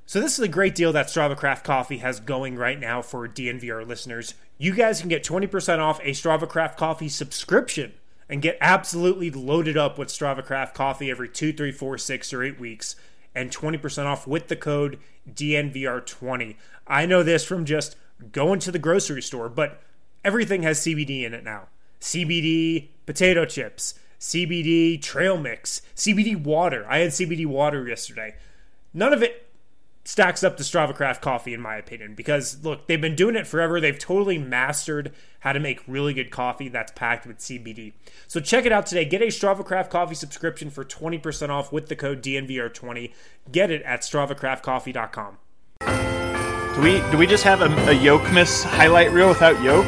So this is a great deal that Strava Craft Coffee has going right now for DNVR listeners. You guys can get 20% off a Strava Craft Coffee subscription and get absolutely loaded up with Strava Craft Coffee every 2, 3, 4, 6, or 8 weeks, and 20% off with the code DNVR20. I know this from just going to the grocery store, but everything has CBD in it now. CBD potato chips, CBD trail mix, CBD water. I had CBD water yesterday. None of it stacks up to Strava Craft Coffee, in my opinion, because, look, they've been doing it forever. They've totally mastered how to make really good coffee that's packed with CBD. So check it out today. Get a Strava Craft Coffee subscription for 20% off with the code DNVR20. Get it at StravaCraftCoffee.com. Do we just have a Yokemas highlight reel without Yoke?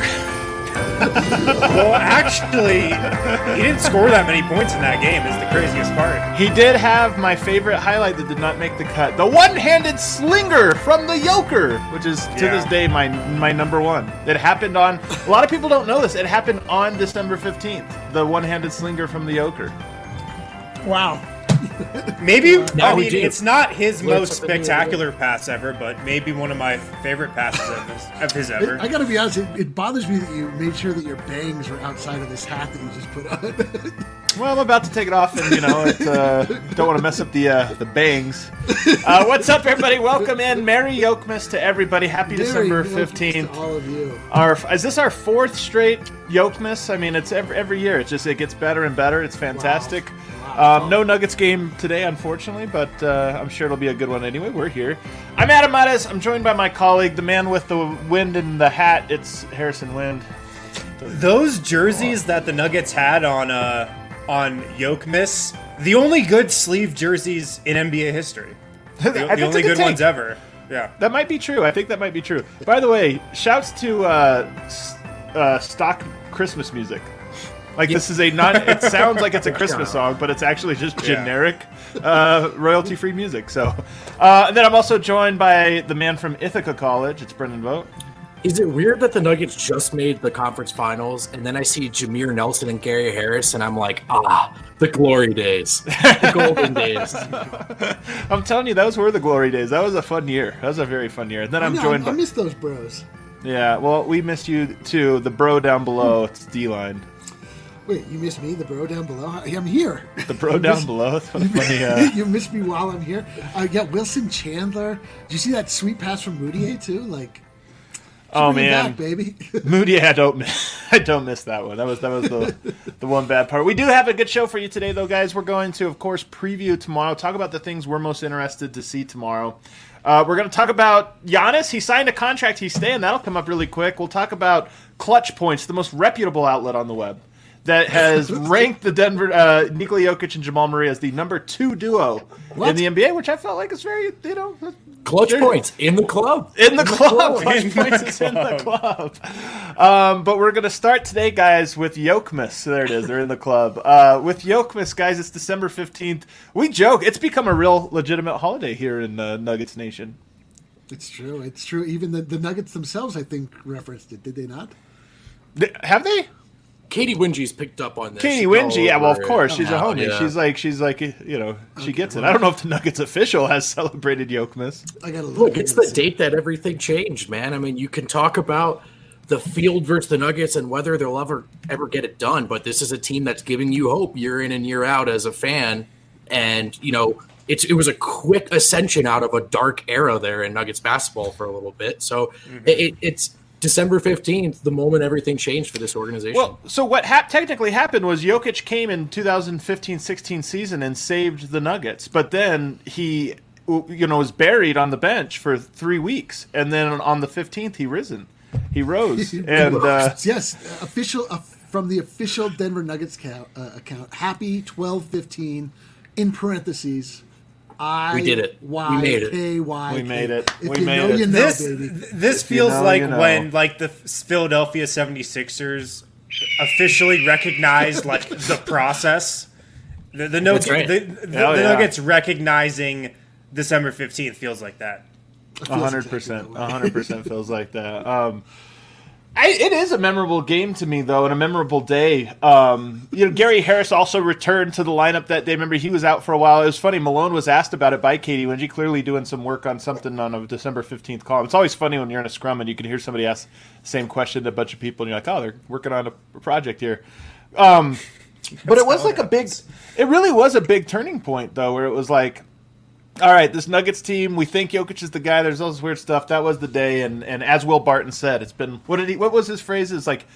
Well, actually, he didn't score that many points in that game, is the craziest part. He did have my favorite highlight that did not make the cut. The one-handed slinger from the Yoker, which is to this day my number one. It happened on, a lot of people don't know this, it happened on December 15th, the one-handed slinger from the Yoker. Wow. Maybe, it's not his most spectacular pass ever, but maybe one of my favorite passes of his ever. I gotta be honest, it bothers me that you made sure that your bangs were outside of this hat that you just put on. Well, I'm about to take it off, and don't want to mess up the bangs. What's up, everybody? Welcome in. Merry Yokemas to everybody. Happy December 15th. To all of you. Is this our fourth straight Yokemas? I mean, it's every year. It gets better and better. It's fantastic. Wow. No Nuggets game today, unfortunately, but I'm sure it'll be a good one anyway. We're here. I'm Adam Mattes. I'm joined by my colleague, the man with the wind in the hat. It's Harrison Wind. Those jerseys that the Nuggets had on Yokemas, the only good sleeve jerseys in NBA history. The only good ones ever. Yeah, that might be true. I think that might be true. By the way, shouts to stock Christmas music. Like, this is it sounds like it's a Christmas song, but it's actually just generic royalty-free music. So, and then I'm also joined by the man from Ithaca College. It's Brendan Vogt. Is it weird that the Nuggets just made the conference finals, and then I see Jameer Nelson and Gary Harris, and I'm like, the glory days, the golden days. I'm telling you, those were the glory days. That was a fun year. That was a very fun year. And then I miss those bros. Yeah, well, we missed you too. The bro down below, it's D-line. Wait, you miss me, the bro down below? I'm here. The bro down below? Funny, you miss me while I'm here? Wilson Chandler. Did you see that sweet pass from Moutier, too? Like, oh, man. Back, baby. Moutier, I don't miss that one. That was the one bad part. We do have a good show for you today, though, guys. We're going to, of course, preview tomorrow, talk about the things we're most interested to see tomorrow. We're going to talk about Giannis. He signed a contract. He's staying. That'll come up really quick. We'll talk about Clutch Points, the most reputable outlet on the web, that has ranked the Denver Nikola Jokic and Jamal Murray as the number 2 duo in the NBA, which I felt like is very, Clutch Points in the club. In the club. Clutch Points is in the club. But we're going to start today, guys, with Yokemas. There it is. They're in the club. With Yokemas, guys, it's December 15th. We joke. It's become a real legitimate holiday here in Nuggets Nation. It's true. It's true. Even the Nuggets themselves, I think, referenced it. Did they not? Have they? Katie Wingy's picked up on this. Katie Wingy, yeah, well, of course. She's a homie. Yeah. She's like, she gets it. I don't know if the Nuggets official has celebrated Yokemas. I gotta look. It's the date that everything changed, man. I mean, you can talk about the field versus the Nuggets and whether they'll ever get it done, but this is a team that's giving you hope year in and year out as a fan. And, it was a quick ascension out of a dark era there in Nuggets basketball for a little bit. So it's December 15th, the moment everything changed for this organization. Well, so what technically happened was Jokic came in 2015-16 season and saved the Nuggets, but then he, was buried on the bench for 3 weeks, and then on the 15th he rose, and yes, official from the official Denver Nuggets account. Happy 12/15 in parentheses. We did it. We made it. We made it. We made it. This feels like when the Philadelphia 76ers officially recognized the process. The Nuggets recognizing December 15th feels like that. 100%. 100% feels like that. It is a memorable game to me, though, and a memorable day. Gary Harris also returned to the lineup that day. Remember, he was out for a while. It was funny. Malone was asked about it by Katie Wingy, clearly doing some work on something on a December 15th column. It's always funny when you're in a scrum and you can hear somebody ask the same question to a bunch of people, and you're like, oh, they're working on a project here. But it was like it really was a big turning point, though, where it was like, all right, this Nuggets team, we think Jokic is the guy. There's all this weird stuff. That was the day, and as Will Barton said, it's been what was his phrase? It's like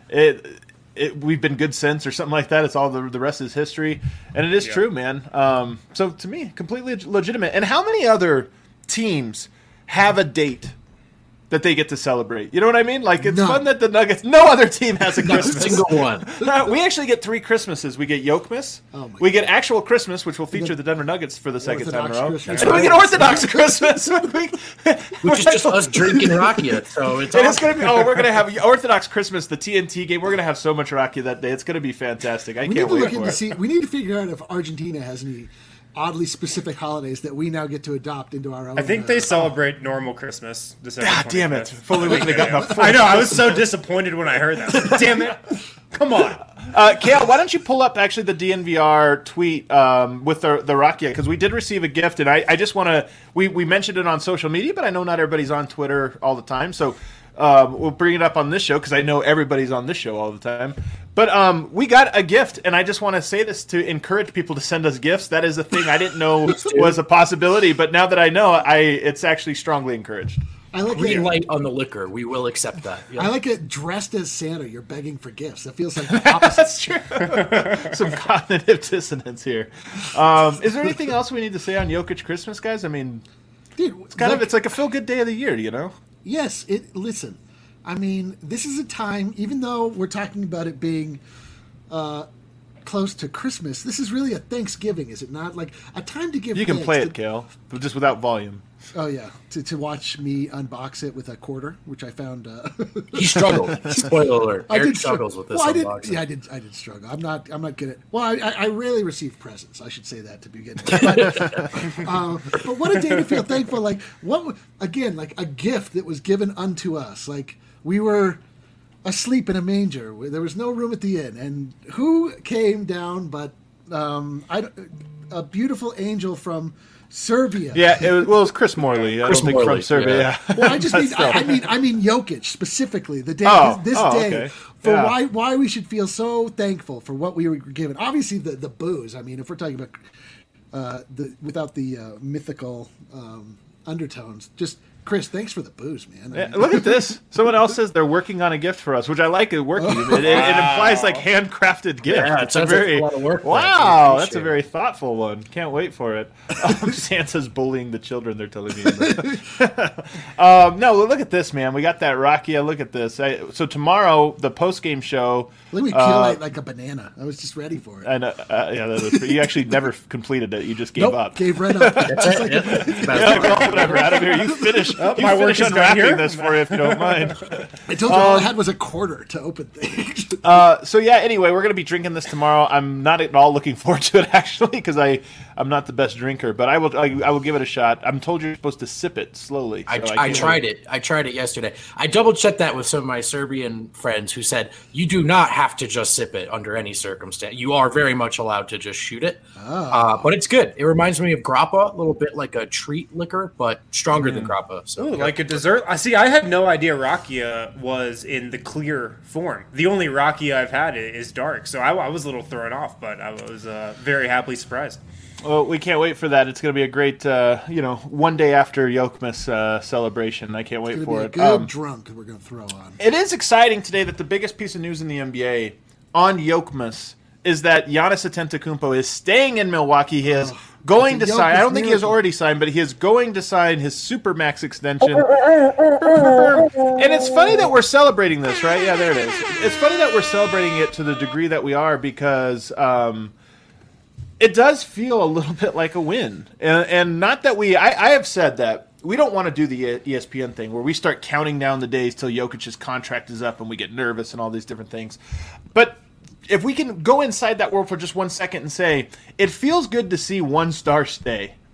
we've been good since, or something like that. It's all the rest is history, and it is true, man. So to me, completely legitimate. And how many other teams have a date that they get to celebrate? You know what I mean? Like, it's fun that the Nuggets, no other team has a Christmas. Single one. We actually get 3 Christmases. We get Yokmas. We get actual Christmas, which will feature the Denver Nuggets for the second time in a row. Christmas. And we get Orthodox Christmas. Which is just us drinking rakia. So it's going to be, we're going to have Orthodox Christmas, the TNT game. We're going to have so much rakia that day. It's going to be fantastic. I can't wait for it. We need to figure out if Argentina has any oddly specific holidays that we now get to adopt into our own. I think they celebrate normal Christmas. December God 25th. damn it. Fully we could have gotten a full. I know. I was so disappointed when I heard that. Damn it. Come on. Kale, why don't you pull up actually the DNVR tweet with the rakia? Because we did receive a gift, and I just want to. We mentioned it on social media, but I know not everybody's on Twitter all the time. So we'll bring it up on this show because I know everybody's on this show all the time. But we got a gift, and I just want to say this to encourage people to send us gifts. That is a thing I didn't know was a possibility, but now that I know, it's actually strongly encouraged. I like green light on the liquor. We will accept that. Yeah. I like it dressed as Santa. You're begging for gifts. That feels like the opposite. That's true. Some cognitive dissonance here. Is there anything else we need to say on Jokic Christmas, guys? I mean, dude, it's like a feel-good day of the year, you know? Yes. Listen, I mean, this is a time, even though we're talking about it being close to Christmas, this is really a Thanksgiving, is it not? Like a time to give. You can play it, Kale, but just without volume. Oh yeah, to watch me unbox it with a quarter, which I found. He struggled. Spoiler alert! Eric struggles with this unboxing. Yeah, I did struggle. I'm not good at. Well, I rarely receive presents. I should say that to begin with. But what a day to feel thankful. Like like a gift that was given unto us. Like we were asleep in a manger. There was no room at the inn, and who came down but a beautiful angel from Serbia. Yeah, it was Chris Morley. I don't think from Serbia. Yeah. Well, I mean Jokic specifically. The day, this day, okay. For why we should feel so thankful for what we were given. Obviously, the booze. I mean, if we're talking about without the mythical undertones, just. Chris, thanks for the booze, man. Yeah, look at this. Someone else says they're working on a gift for us, which I like. Working. It implies like handcrafted gift. Yeah, it's a very like a lot of work. Wow, that's a very thoughtful one. Can't wait for it. Santa's bullying the children. They're telling me. No, look at this, man. We got that rakia. Look at this. So tomorrow, the post game show. Let me peel like a banana. I was just ready for it. And yeah, that was. You actually never completed it. You just gave up. Gave right up. Whatever. Out of here. You finish. My work is unwrapping this for you if you don't mind. I told you all I had was a quarter to open things. So yeah, anyway, we're going to be drinking this tomorrow. I'm not at all looking forward to it, actually, because I'm not the best drinker, but I will give it a shot. I'm told you're supposed to sip it slowly. So I tried it. I tried it yesterday. I double-checked that with some of my Serbian friends who said, you do not have to just sip it under any circumstance. You are very much allowed to just shoot it. But it's good. It reminds me of grappa, a little bit like a treat liquor, but stronger than grappa. So like a dessert. I had no idea rakia was in the clear form. The only rakia I've had is dark, so I was a little thrown off, but I was very happily surprised. Well, we can't wait for that. It's going to be a great, one day after Yokmas celebration. I can't wait for it. Good drunk we're going to throw on. It is exciting today that the biggest piece of news in the NBA on Yokmas is that Giannis Antetokounmpo is staying in Milwaukee. He is going to sign. I don't think he has already signed, but he is going to sign his Supermax extension. And it's funny that we're celebrating this, right? Yeah, there it is. It's funny that we're celebrating it to the degree that we are because it does feel a little bit like a win. And not that I have said that we don't want to do the ESPN thing where we start counting down the days till Jokic's contract is up and we get nervous and all these different things. But if we can go inside that world for just 1 second and say, it feels good to see one star stay.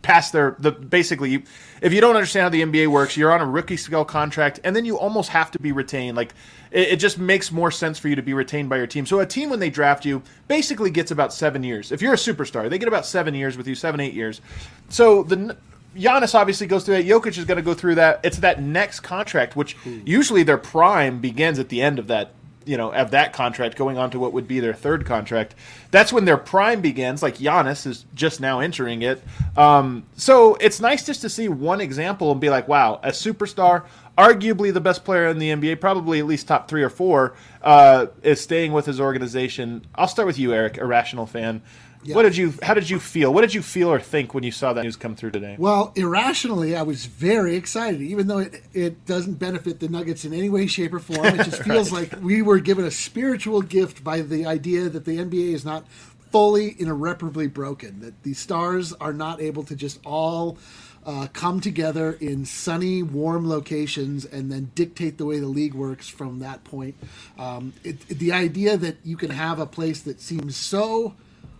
past basically, if you don't understand how the NBA works, you're on a rookie scale contract, and then you almost have to be retained. Like, it just makes more sense for you to be retained by your team. So a team, when they draft you, basically gets about 7 years. If you're a superstar, they get about 7 years with you, 7-8 years. So Giannis obviously goes through that. Jokic is going to go through that. It's that next contract, which usually their prime begins at the end of that, of that contract, going on to what would be their third contract. That's when their prime begins. Like, Giannis is just now entering it. So it's nice just to see one example and be like, wow, a superstar, arguably the best player in the NBA, probably at least top 3 or 4, is staying with his organization. I'll start with you, Eric, irrational fan. Yeah. How did you feel? What did you feel or think when you saw that news come through today? Well, irrationally, I was very excited, even though it doesn't benefit the Nuggets in any way, shape, or form. It just feels like we were given a spiritual gift by the idea that the NBA is not fully and irreparably broken, that the stars are not able to just all come together in sunny, warm locations and then dictate the way the league works from that point. The idea that you can have a place that seems so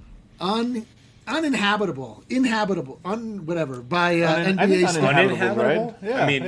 uninhabitable whatever by NBA stars. Uninhabitable, right? Yeah, I mean,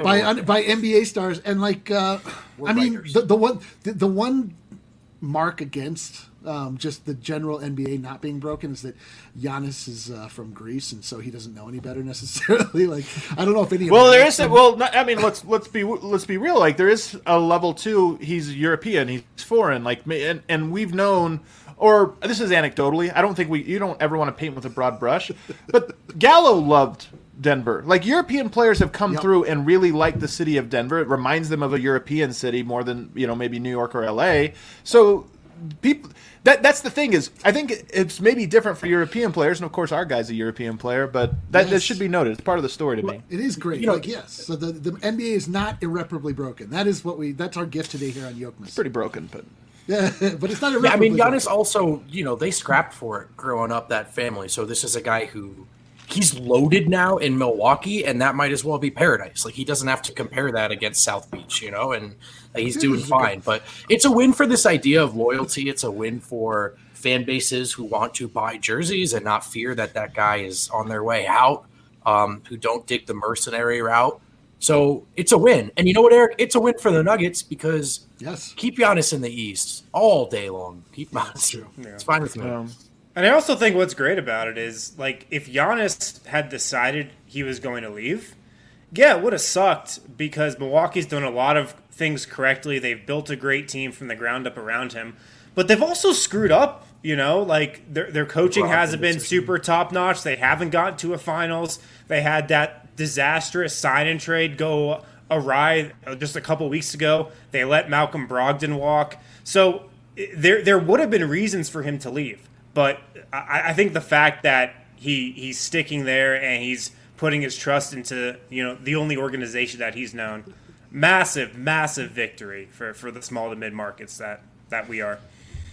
by NBA stars, and like I mean the one mark against just the general NBA not being broken is that Giannis is from Greece, and so he doesn't know any better necessarily. Like, I don't know if any. Well, there is. I mean, let's be real. Like, there is a level too. He's European. He's foreign. Like, and we've known. Or this is anecdotally. I don't think you don't ever want to paint with a broad brush, but Gallo loved Denver. Like, European players have come through and really liked the city of Denver. It reminds them of a European city more than maybe New York or LA. So people, that's the thing is, I think it's maybe different for European players, and of course our guy's a European player, but that should be noted. It's part of the story to me. It is great. Yes. So the NBA is not irreparably broken. That is that's our gift today here on Yokmas. It's pretty broken, but. Yeah, but it's not a. Yeah, I mean, Giannis also, they scrapped for it growing up, that family. So this is a guy who he's loaded now in Milwaukee, and that might as well be paradise. Like, he doesn't have to compare that against South Beach, and he's doing fine. But it's a win for this idea of loyalty. It's a win for fan bases who want to buy jerseys and not fear that guy is on their way out, who don't dig the mercenary route. So it's a win. And you know what, Eric? It's a win for the Nuggets because keep Giannis in the East all day long. Keep Giannis. Yeah. It's fine with me. And I also think what's great about it is, like, if Giannis had decided he was going to leave, it would have sucked because Milwaukee's done a lot of things correctly. They've built a great team from the ground up around him. But they've also screwed up, like their coaching hasn't been super top-notch. They haven't gotten to a finals. They had that disastrous sign-and trade go awry just a couple weeks ago. They let Malcolm Brogdon walk. So there would have been reasons for him to leave. But I think the fact that he's sticking there and he's putting his trust into the only organization that he's known, massive victory for the small to mid markets that we are.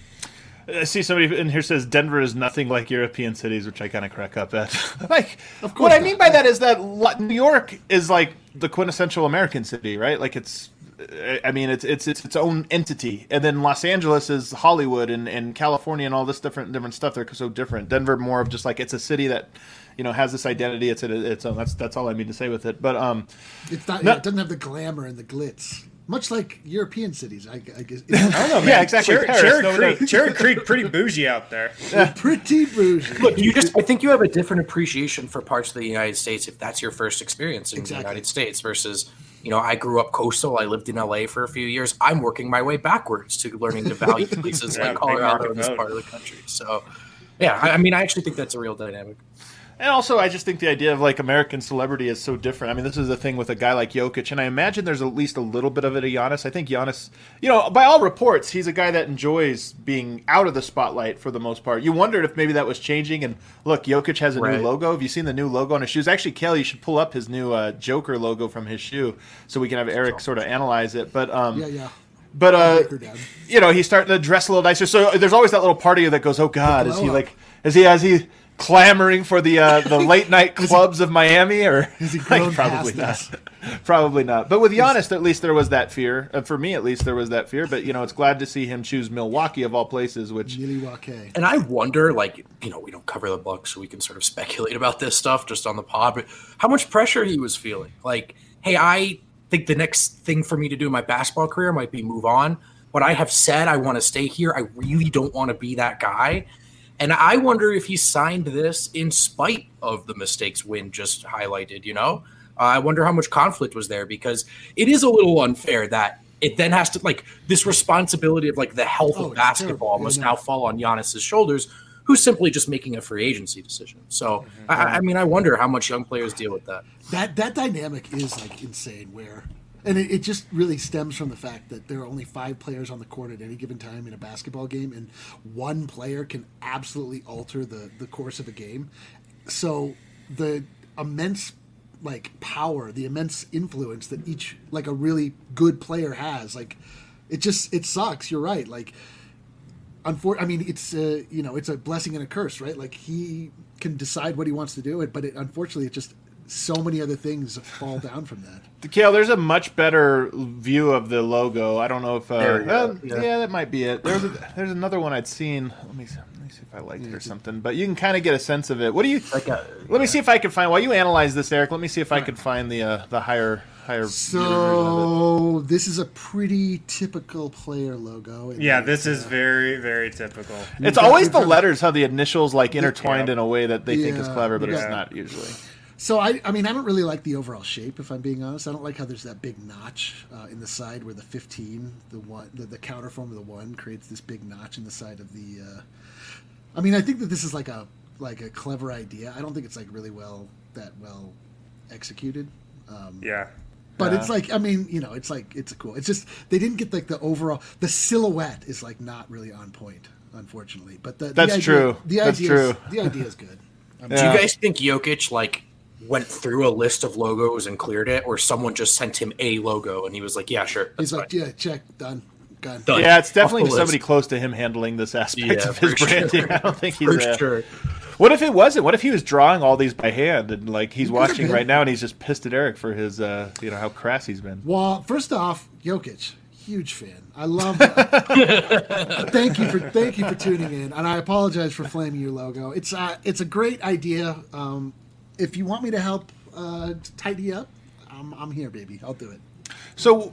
I see somebody in here says Denver is nothing like European cities, which I kind of crack up at. Like, of course what I mean by that is that New York is like the quintessential American city, right? Like, it's its own entity, and then Los Angeles is Hollywood and California and all this different stuff. They're so different. Denver more of just like it's a city that has this identity. It's own. That's all I mean to say with it. But it's not. It doesn't have the glamour and the glitz. Much like European cities, I guess. I don't know, man. Yeah, exactly. Cherry Creek, pretty bougie out there. Yeah. Pretty bougie. Look, I think you have a different appreciation for parts of the United States if that's your first experience in the United States versus, I grew up coastal. I lived in LA for a few years. I'm working my way backwards to learning to value places like Colorado in this part of the country. So, yeah, I actually think that's a real dynamic. And also, I just think the idea of, like, American celebrity is so different. I mean, this is the thing with a guy like Jokic, and I imagine there's at least a little bit of it of Giannis. I think Giannis, by all reports, he's a guy that enjoys being out of the spotlight for the most part. You wondered if maybe that was changing, and look, Jokic has a new logo. Have you seen the new logo on his shoes? Actually, Kelly, you should pull up his new Joker logo from his shoe so we can have Eric sort of analyze it. But yeah. But he's starting to dress a little nicer. So there's always that little part of you that goes, "Oh God, is he clamoring for the late night clubs of Miami, or Is he grown probably past not. Probably not. But with Giannis, at least there was that fear. For me, at least there was that fear. But it's glad to see him choose Milwaukee of all places. Which Milwaukee. And I wonder, like, we don't cover the Bucks, so we can sort of speculate about this stuff just on the pod. But how much pressure he was feeling? Like, hey, I think the next thing for me to do in my basketball career might be move on. But I have said I want to stay here. I really don't want to be that guy. And I wonder if he signed this in spite of the mistakes Win just highlighted, I wonder how much conflict was there, because it is a little unfair that it then has to, like, this responsibility of, like, the health of basketball must now fall on Giannis's shoulders, who's simply just making a free agency decision. So, I mean, I wonder how much young players deal with that. That dynamic is, like, insane and it just really stems from the fact that there are only 5 players on the court at any given time in a basketball game, and one player can absolutely alter the course of a game. So the immense power, the immense influence that each a really good player has, it sucks. You're right. It's it's a blessing and a curse, right? Like, he can decide what he wants to do, but unfortunately, it just so many other things fall down from that. Kale, there's a much better view of the logo. I don't know if that might be it. There's another one I'd seen. Let me see if I liked it or something. But you can kind of get a sense of it. What do you? Let me see if I can find. While you analyze this, Eric, let me see if I can find the higher. So this is a pretty typical player logo. Yeah, this is very, very typical. It's always the letters, how the initials intertwined in a way that they think is clever, but it's not usually. So I don't really like the overall shape, if I'm being honest. I don't like how there's that big notch in the side where the 15, the counter form of the 1 creates this big notch in the side of the. I think that this is like a clever idea. I don't think it's really well executed. But it's it's cool. It's just they didn't get the overall. The silhouette is not really on point, unfortunately. But that's true. The idea is good. Do you guys think Jokic went through a list of logos and cleared it, or someone just sent him a logo and he was like, yeah, sure. He's like, yeah, check, done. Yeah, it's definitely somebody close to him handling this aspect of his branding. I don't think he's sure. What if it wasn't? What if he was drawing all these by hand and he's watching right now and he's just pissed at Eric for his how crass he's been? Well, first off, Jokic, huge fan. I love. Thank you for tuning in, and I apologize for flaming your logo. It's a great idea. If you want me to help tidy up, I'm here, baby. I'll do it. So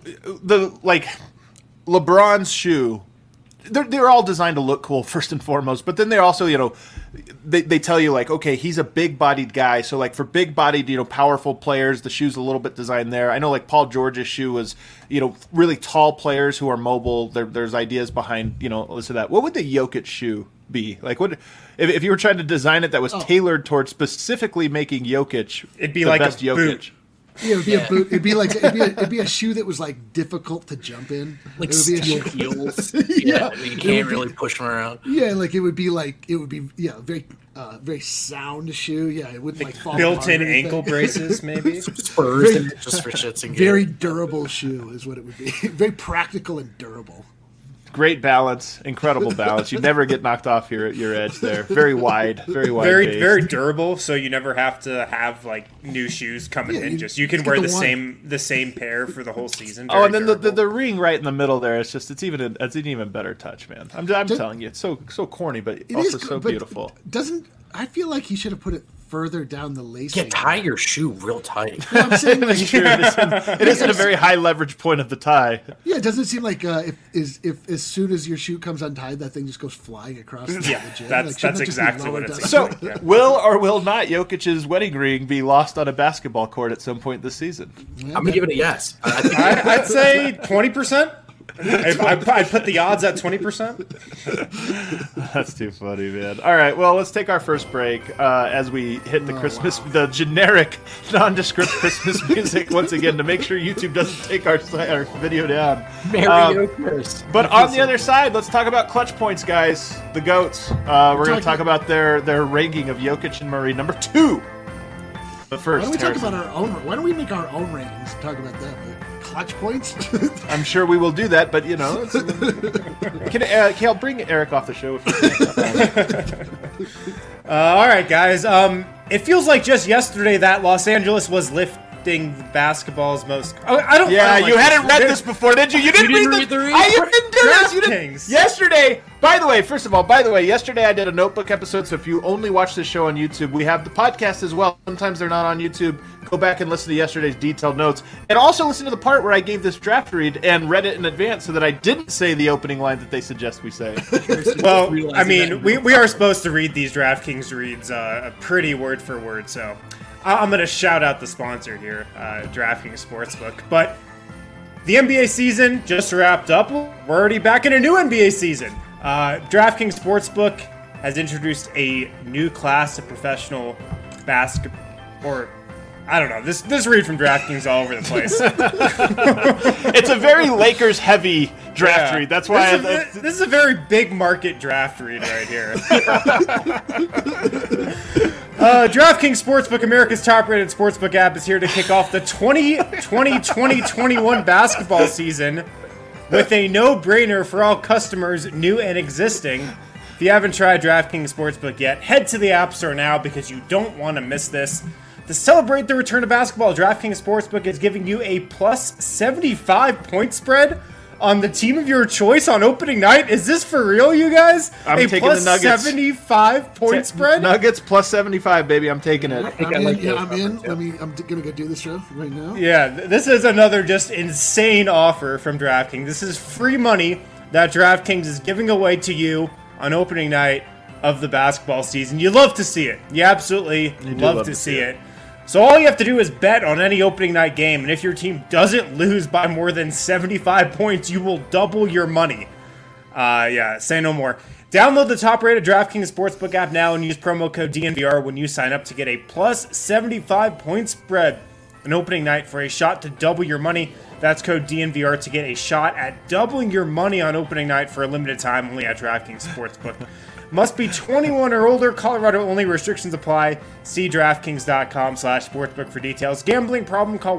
LeBron's shoe, they're all designed to look cool first and foremost, but then they're also they tell you okay, he's a big-bodied guy, so for big-bodied powerful players, the shoe's a little bit designed there. I know Paul George's shoe was really tall players who are mobile. There's ideas behind listen to that. What would the Jokic shoe be what if you were trying to design it that was tailored towards specifically making Jokic? It'd be the like best a Jokic. boot. Yeah, it'd be a boot. It'd be a shoe that was difficult to jump in. Like it would be steel heels. You can't really push them around. Yeah, it would be very very sound shoe. Yeah, it wouldn't fall built-in apart ankle braces, maybe. Spurs in it just for shits and giggles. Very durable shoe is what it would be. Very practical and durable. Great balance, incredible balance. You never get knocked off your edge there. Very wide, very wide. Very durable. So you never have to have new shoes coming in. You can wear the same pair for the whole season. And then the ring right in the middle there. It's an even better touch, man. I'm telling you, it's so corny, but also so beautiful. I feel like he should have put it further down the lacing. Yeah, tie your shoe real tight. No, I'm saying it isn't a very high leverage point of the tie. Yeah, it doesn't seem like if as soon as your shoe comes untied, that thing just goes flying across the gym. That's exactly what it's. So, will or will not Jokic's wedding ring be lost on a basketball court at some point this season? Yeah, I'm gonna give it a yes. I'd say 20%. I'd put the odds at 20%. That's too funny, man. All right, well, let's take our first break as we hit the the generic, nondescript Christmas music once again to make sure YouTube doesn't take our video down. Merry Christmas. But on the other side, let's talk about clutch points, guys. The GOATs. We're going to talk about their ranking of Jokic and Murray. Number 2. But Why first, don't we talk Harrison, about our own? Why don't we make our own rankings and talk about that? Like clutch points. I'm sure we will do that, but Kale, bring Eric off the show. If you All right, guys. It feels like just yesterday that Los Angeles was lifting basketball's most. I don't. Yeah, I don't you like hadn't read this before, did you? You didn't read the read? You didn't do this. You didn't. DraftKings. Yesterday, by the way, yesterday I did a notebook episode. So if you only watch the show on YouTube, we have the podcast as well. Sometimes they're not on YouTube. Go back and listen to yesterday's detailed notes, and also listen to the part where I gave this draft read and read it in advance, so that I didn't say the opening line that they suggest we say. Well, I mean, we are supposed to read these DraftKings reads pretty word for word, so I'm going to shout out the sponsor here, DraftKings Sportsbook. But the NBA season just wrapped up. We're already back in a new NBA season. DraftKings Sportsbook has introduced a new class of professional basketball, or I don't know. This read from DraftKings all over the place. It's a very Lakers-heavy draft Yeah. read. That's why this is a very big market draft read right here. DraftKings Sportsbook, America's top-rated sportsbook app, is here to kick off the 2020-2021 basketball season with a no-brainer for all customers, new and existing. If you haven't tried DraftKings Sportsbook yet, head to the App Store now because you don't want to miss this. To celebrate the return of basketball, DraftKings Sportsbook is giving you a plus 75 point spread on the team of your choice on opening night. Is this for real, you guys? I'm a taking plus the Nuggets. 75 point spread? Nuggets plus 75, baby. I'm taking it. I'm in. Yeah, I'm in. I'm gonna go do the show right now. Yeah, this is another just insane offer from DraftKings. This is free money that DraftKings is giving away to you on opening night of the basketball season. You love to see it. You absolutely love to see it. So all you have to do is bet on any opening night game, and if your team doesn't lose by more than 75 points, you will double your money. Yeah, say no more. Download the top-rated DraftKings Sportsbook app now and use promo code DNVR when you sign up to get a plus 75 point spread on opening night for a shot to double your money. That's code DNVR to get a shot at doubling your money on opening night for a limited time only at DraftKings Sportsbook. Must be 21 or older. Colorado only. Restrictions apply. See DraftKings.com/sportsbook for details. Gambling problem? Call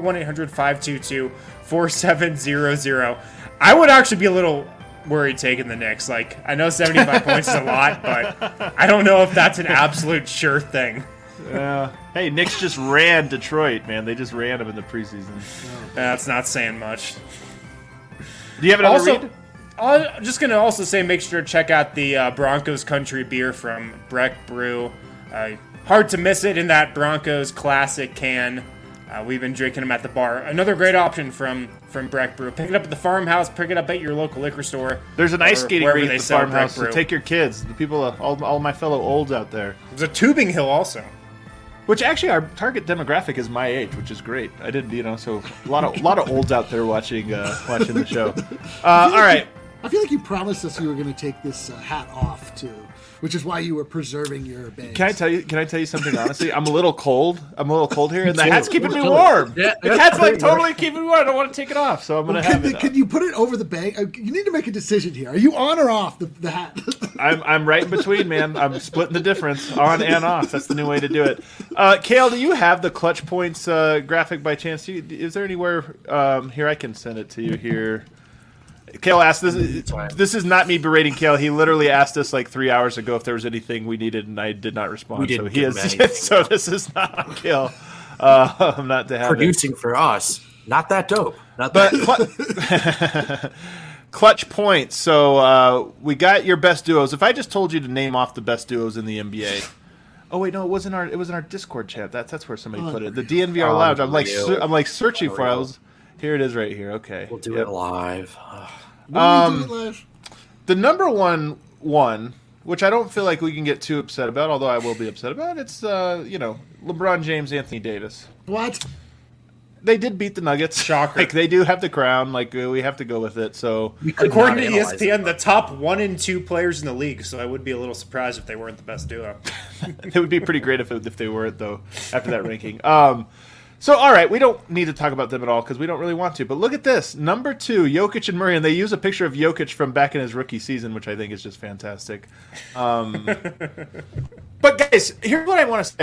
1-800-522-4700. I would actually be a little worried taking the Knicks. Like, I know 75 points is a lot, but I don't know if that's an absolute sure thing. Hey, Knicks just ran Detroit, man. They just ran them in the preseason. That's not saying much. Do you have another Also, read? I'm just going to also say make sure to check out the Broncos Country Beer from Breck Brew. Hard to miss it in that Broncos classic can. We've been drinking them at the bar. Another great option from Breck Brew. Pick it up at the farmhouse. Pick it up at your local liquor store. There's an ice skating wherever rink they at the sell farmhouse. Breck So Brew. take your kids, the people, all my fellow olds out there. There's a tubing hill also. Which actually, our target demographic is my age, which is great. I didn't, so a lot of olds out there watching the show. All right. I feel like you promised us you were going to take this hat off too, which is why you were preserving your bangs. Can I tell you something honestly? I'm a little cold. here, and the too. hat's keeping me Totally. warm. Yeah, the that's hat's like pretty totally keeping me warm. I don't want to take it off, so I'm gonna have it. Can you put it over the bang? You need to make a decision here. Are you on or off the hat? I'm right in between, man. I'm splitting the difference on and off. That's the new way to do it. Kale, do you have the clutch points graphic by chance? Is there anywhere here I can send it to you here? Kale asked this. This is not me berating Kale. He literally asked us like 3 hours ago if there was anything we needed, and I did not respond. We didn't so he give him is. anything. So this is not on Kale. Not to have it. Producing for us, not that dope. Not But that. clutch points. So we got your best duos. If I just told you to name off the best duos in the NBA. Oh wait, no, it was in our Discord chat. That's where somebody put it. The DNVR Lounge. I'm like searching for it. Here it is right here. Okay. We'll do it live. When do we do it live? The number one, which I don't feel like we can get too upset about, although I will be upset about, it's LeBron James, Anthony Davis. What? They did beat the Nuggets. Shocker. Like they do have the crown. Like we have to go with it. So We could According not to analyze ESPN, it. the top 1 and 2 players in the league, so I would be a little surprised if they weren't the best duo. it would be pretty great if they weren't, though, after that ranking. So, all right, we don't need to talk about them at all because we don't really want to. But look at this. Number 2, Jokic and Murray. And they use a picture of Jokic from back in his rookie season, which I think is just fantastic. But, guys, here's what I want to say.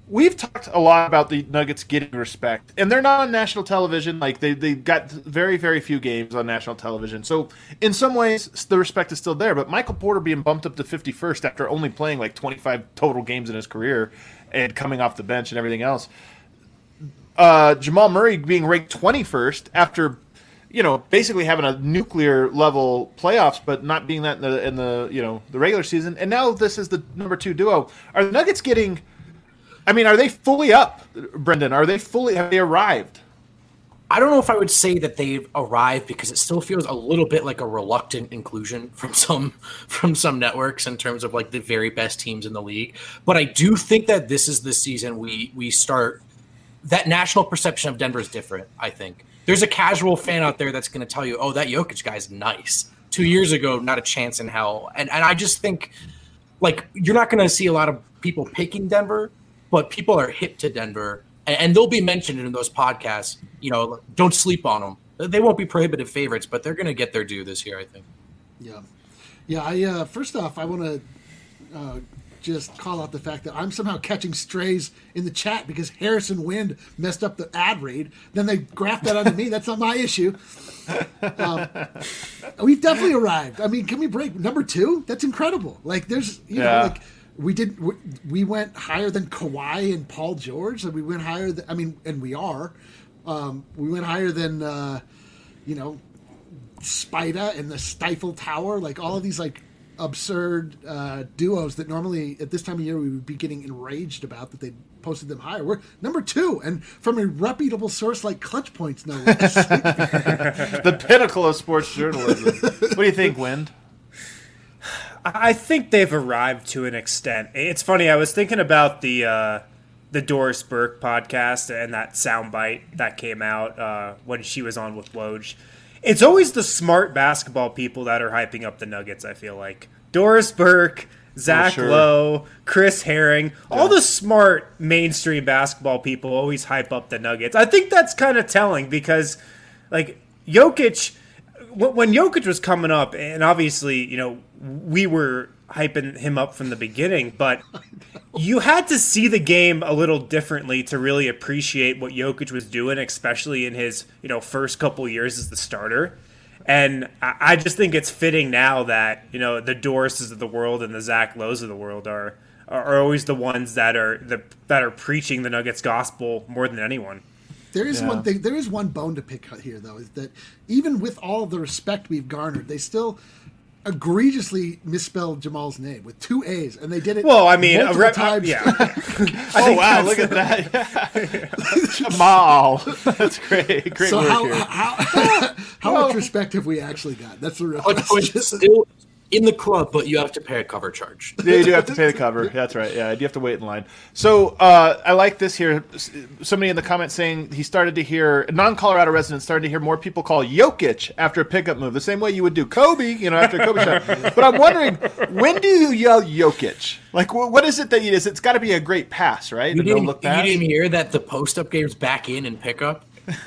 we've talked a lot about the Nuggets getting respect, and they're not on national television. Like they got very, very few games on national television. So in some ways, the respect is still there. But Michael Porter being bumped up to 51st after only playing like 25 total games in his career and coming off the bench and everything else. Jamal Murray being ranked 21st after, basically having a nuclear level playoffs, but not being that in the the regular season. And now this is the number 2 duo. Are the Nuggets getting? I mean, are they fully up, Brendan? Have they arrived? I don't know if I would say that they've arrived, because it still feels a little bit like a reluctant inclusion from some networks in terms of like the very best teams in the league. But I do think that this is the season we start. That national perception of Denver is different, I think. There's a casual fan out there that's going to tell you, oh, that Jokic guy's nice. 2 years ago, not a chance in hell. And I just think, like, you're not going to see a lot of people picking Denver, but people are hip to Denver, and they'll be mentioned in those podcasts. Don't sleep on them. They won't be prohibitive favorites, but they're going to get their due this year, I think. Yeah. I first off, I want to just call out the fact that I'm somehow catching strays in the chat because Harrison Wind messed up the ad read. Then they graft that onto me. That's not my issue. We've definitely arrived. I mean, can we break number 2? That's incredible. Like, there's, we went higher than Kawhi and Paul George, and we went higher and we are. We went higher than, Spida and the Stifle Tower, like all of these like absurd duos that normally at this time of year we would be getting enraged about that they posted them higher. We're number 2, and from a reputable source like Clutch Points, no less. The pinnacle of sports journalism. What do you think, Wind? I think they've arrived to an extent. It's funny. I was thinking about the Doris Burke podcast and that soundbite that came out when she was on with Woj. It's always the smart basketball people that are hyping up the Nuggets, I feel like. Doris Burke, Zach Lowe, Chris Herring, all the smart mainstream basketball people always hype up the Nuggets. I think that's kind of telling because, like, Jokic, when Jokic was coming up, and obviously, we were hyping him up from the beginning, but you had to see the game a little differently to really appreciate what Jokic was doing, especially in his, first couple years as the starter. And I just think it's fitting now that, the Dorises of the world and the Zach Lowe's of the world are always the ones that are preaching the Nuggets gospel more than anyone. There is one thing. There is one bone to pick here, though, is that even with all the respect we've garnered, they still egregiously misspelled Jamal's name with 2 A's, and they did it. Well, I mean, times. Yeah. Oh wow, look at that, Jamal. That's great. Great so work here. How much respect have we actually got? That's the real question. Still in the club, but you have to pay a cover charge. Yeah, you do have to pay the cover. That's right. Yeah, you have to wait in line. So I like this here. Somebody in the comments saying he started to hear, non-Colorado residents started to hear more people call Jokic after a pickup move, the same way you would do Kobe, after a Kobe shot. But I'm wondering, when do you yell Jokic? Like, what is it that you do? It's got to be a great pass, right? You didn't hear that the post-up game's back in and pickup?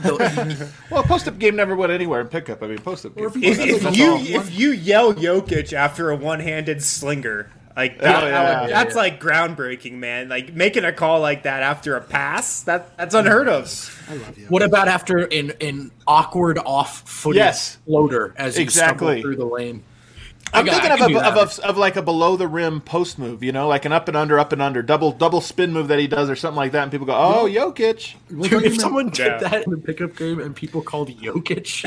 Well, post-up game never went anywhere in pickup. I mean, post-up game. If you yell Jokic after a one-handed slinger, like that's like groundbreaking, man. Like making a call like that after a pass, that's unheard of. I love you. What about after an awkward off-footed floater as you stumble through the lane? I'm thinking of like a below the rim post move, like an up and under, double spin move that he does or something like that, and people go, "Oh, Jokic!" Dude, if someone did that in the pickup game and people called Jokic,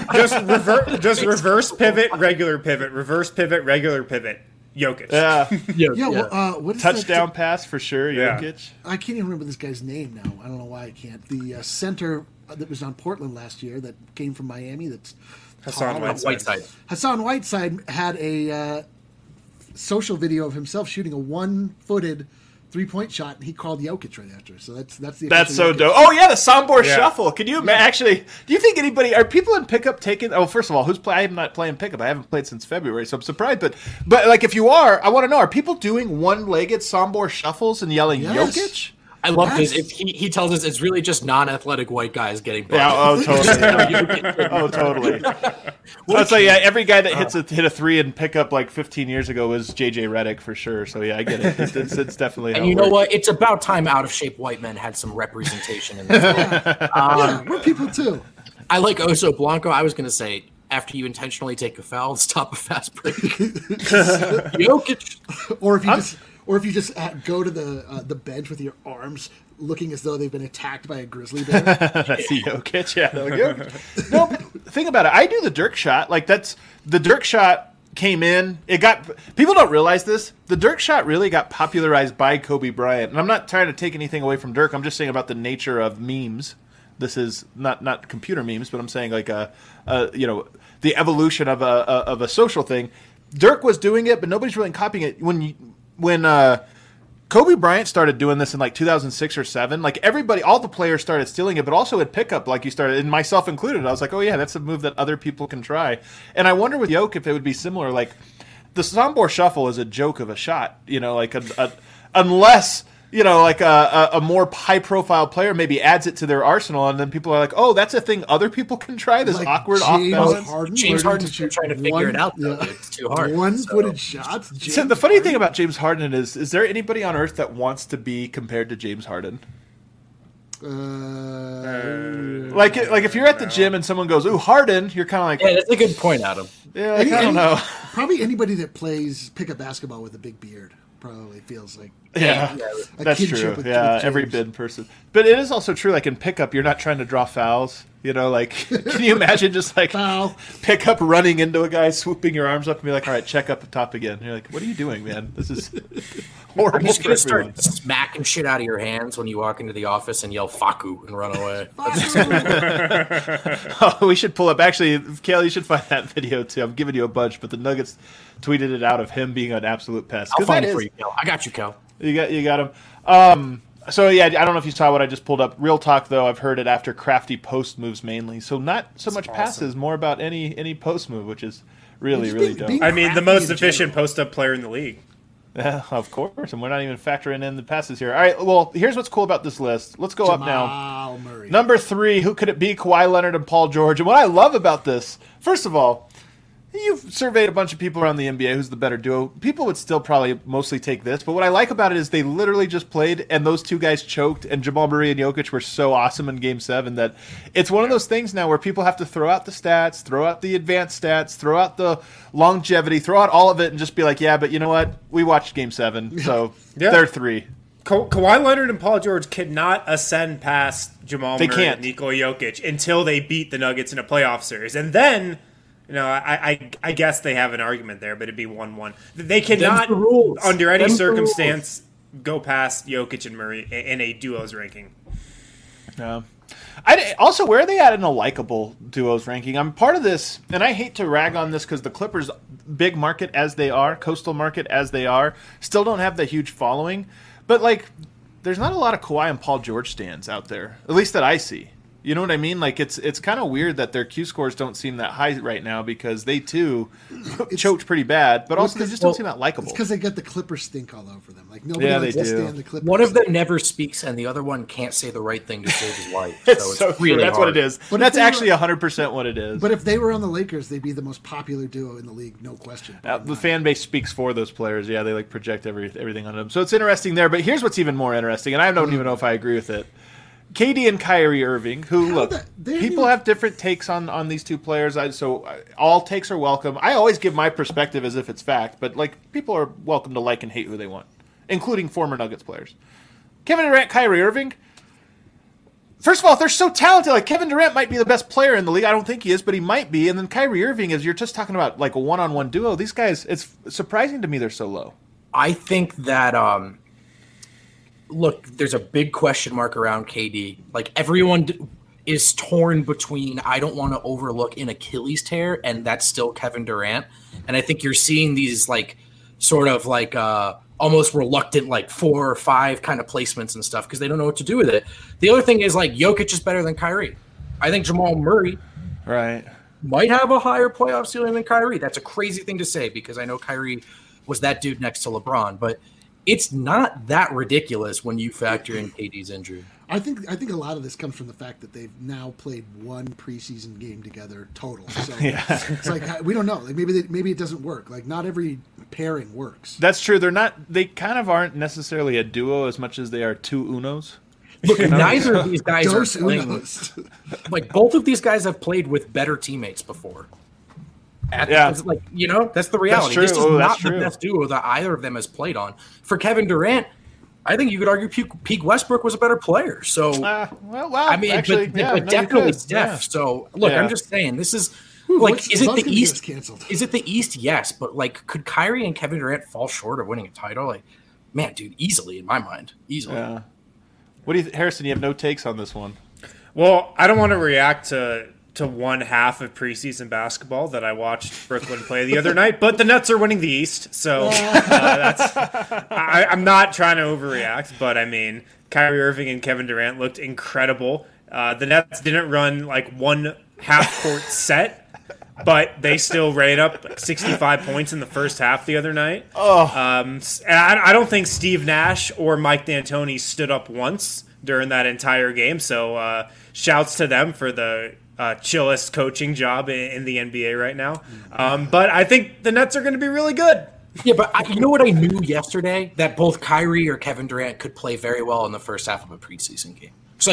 just reverse pivot, regular pivot, reverse pivot, regular pivot. Jokic. Well, what is touchdown pass for sure, Jokic. I can't even remember this guy's name now. I don't know why I can't. The center that was on Portland last year that came from Miami. That's Hassan Whiteside. Hassan Whiteside had a social video of himself shooting a one-footed three-point shot, and he called Jokic right after. So that's so dope. Oh yeah, the Sombor shuffle. Can you actually? Do you think are people in pickup taking? Oh, first of all, I'm not playing pickup. I haven't played since February, so I'm surprised. But like, if you are, I want to know: are people doing one-legged Sombor shuffles and yelling Jokic? I love this. He tells us it's really just non-athletic white guys getting bumped. Yeah, oh, totally. Oh, totally. Well, so yeah, every guy that hit a three and pickup like 15 years ago was JJ Redick for sure. So yeah, I get it. It's definitely. And you know what? It's about time out of shape white men had some representation in this. Yeah, we're people too. I like Oso Blanco. I was going to say, after you intentionally take a foul, stop a fast break. Jokic. Or if you just go to the bench with your arms looking as though they've been attacked by a grizzly bear. That's the Jokic. Yeah. Jokic. No, think about it. I do the Dirk shot. Like the Dirk shot came in. People don't realize this. The Dirk shot really got popularized by Kobe Bryant. And I'm not trying to take anything away from Dirk. I'm just saying about the nature of memes. This is not computer memes, but I'm saying like the evolution of a social thing. Dirk was doing it, but nobody's really copying it. When Kobe Bryant started doing this in like 2006 or 7, like all the players started stealing it, but also at pickup, like you started, and myself included. I was like, oh yeah, that's a move that other people can try. And I wonder with Jokic if it would be similar. Like the Sombor shuffle is a joke of a shot, like unless. Like a more high-profile player maybe adds it to their arsenal, and then people are like, "Oh, that's a thing other people can try." This like awkward off-balance. James Harden's trying to figure it out. Though. Yeah. It's too hard. One-footed shots. So the funny thing about James Harden is there anybody on earth that wants to be compared to James Harden? Like if you're at the gym and someone goes, "Ooh, Harden," you're kind of like, "Yeah, that's a good point, Adam." Yeah, I don't know. Probably anybody that plays pickup basketball with a big beard. Probably feels like that's true. Yeah, every bid person. But it is also true. Like in pickup, you're not trying to draw fouls. Like, can you imagine just like pickup running into a guy, swooping your arms up, and be like, "All right, check up the top again." And you're like, "What are you doing, man? This is horrible." I'm just gonna start smacking shit out of your hands when you walk into the office and yell "Faku" and run away. We should pull up. Actually, Kale, you should find that video too. I'm giving you a bunch, but the Nuggets tweeted it out of him being an absolute pest. I'll find it for you, Cal. I got you, Cal. You got him. So yeah, I don't know if you saw what I just pulled up. Real talk though, I've heard it after crafty post moves mainly. So not so much passes, more about any post move, which is really dope. I mean, the most efficient post up player in the league. Yeah, of course, and we're not even factoring in the passes here. All right, well, here's what's cool about this list. Let's go up now. Murray. Number 3, who could it be? Kawhi Leonard and Paul George. And what I love about this, first of all, you've surveyed a bunch of people around the NBA who's the better duo. People would still probably mostly take this, but what I like about it is they literally just played, and those two guys choked, and Jamal Murray and Jokic were so awesome in Game 7 that it's one of those things now where people have to throw out the stats, throw out the advanced stats, throw out the longevity, throw out all of it, and just be like, yeah, but you know what? We watched Game 7, so they're 3. Kawhi Leonard and Paul George cannot ascend past Jamal Murray can't. and Nikola Jokic until they beat the Nuggets in a playoff series. And then... I guess they have an argument there, but it'd be 1-1. They cannot, under any circumstance, go past Jokic and Murray in a duos ranking. Yeah. Also, where are they at in a likable duos ranking? I'm part of this, and I hate to rag on this because the Clippers, big market as they are, coastal market as they are, still don't have the huge following. But, there's not a lot of Kawhi and Paul George stands out there, at least that I see. You know what I mean? It's kind of weird that their Q scores don't seem that high right now because they too choked pretty bad, but also they just don't seem that likable. It's because they got the Clippers stink all over them. Like nobody likes to stand the Clippers. One of them never speaks, and the other one can't say the right thing to save his life. So it's really that's hard. What it is. But that's actually 100% what it is. But if they were on the Lakers, they'd be the most popular duo in the league, no question. The fan base speaks for those players. Yeah, they project everything on them. So it's interesting there. But here's what's even more interesting, and I don't even know if I agree with it. KD and Kyrie Irving, who, people have different takes on these two players, so all takes are welcome. I always give my perspective as if it's fact, but people are welcome to like and hate who they want, including former Nuggets players. Kevin Durant, Kyrie Irving, first of all, they're so talented. Kevin Durant might be the best player in the league. I don't think he is, but he might be. And then Kyrie Irving, you're just talking about a one-on-one duo. These guys, it's surprising to me they're so low. I think that... Look, there's a big question mark around KD. Everyone is torn between I don't want to overlook an Achilles tear, and that's still Kevin Durant. And I think you're seeing these almost reluctant 4 or 5 kind of placements and stuff because they don't know what to do with it. The other thing is Jokic is better than Kyrie. I think Jamal Murray might have a higher playoff ceiling than Kyrie. That's a crazy thing to say because I know Kyrie was that dude next to LeBron, but it's not that ridiculous when you factor in KD's injury. I think a lot of this comes from the fact that they've now played one preseason game together total. So it's like we don't know. Like maybe it doesn't work. Like not every pairing works. That's true. They kind of aren't necessarily a duo as much as they are two Unos. Look, neither of these guys are Dos playing. Unos. Like both of these guys have played with better teammates before. That's the reality. That's this is true. not the best duo that either of them has played on. For Kevin Durant, I think you could argue Pete Westbrook was a better player. So, actually, definitely Steph. Yeah. So, look, I'm just saying, this is is it the East? Canceled. Is it the East? Yes, but could Kyrie and Kevin Durant fall short of winning a title? Man, dude, easily in my mind, easily. Yeah. What do you, Harrison? You have no takes on this one. Well, I don't want to react to one half of preseason basketball that I watched Brooklyn play the other night, but the Nets are winning the East, so I'm not trying to overreact. But I mean, Kyrie Irving and Kevin Durant looked incredible. The Nets didn't run one half-court set, but they still ran up 65 points in the first half the other night. And I don't think Steve Nash or Mike D'Antoni stood up once during that entire game. So shouts to them for the chillest coaching job in the NBA right now. But I think the Nets are going to be really good. Yeah, but you know what I knew yesterday? That both Kyrie or Kevin Durant could play very well in the first half of a preseason game. So,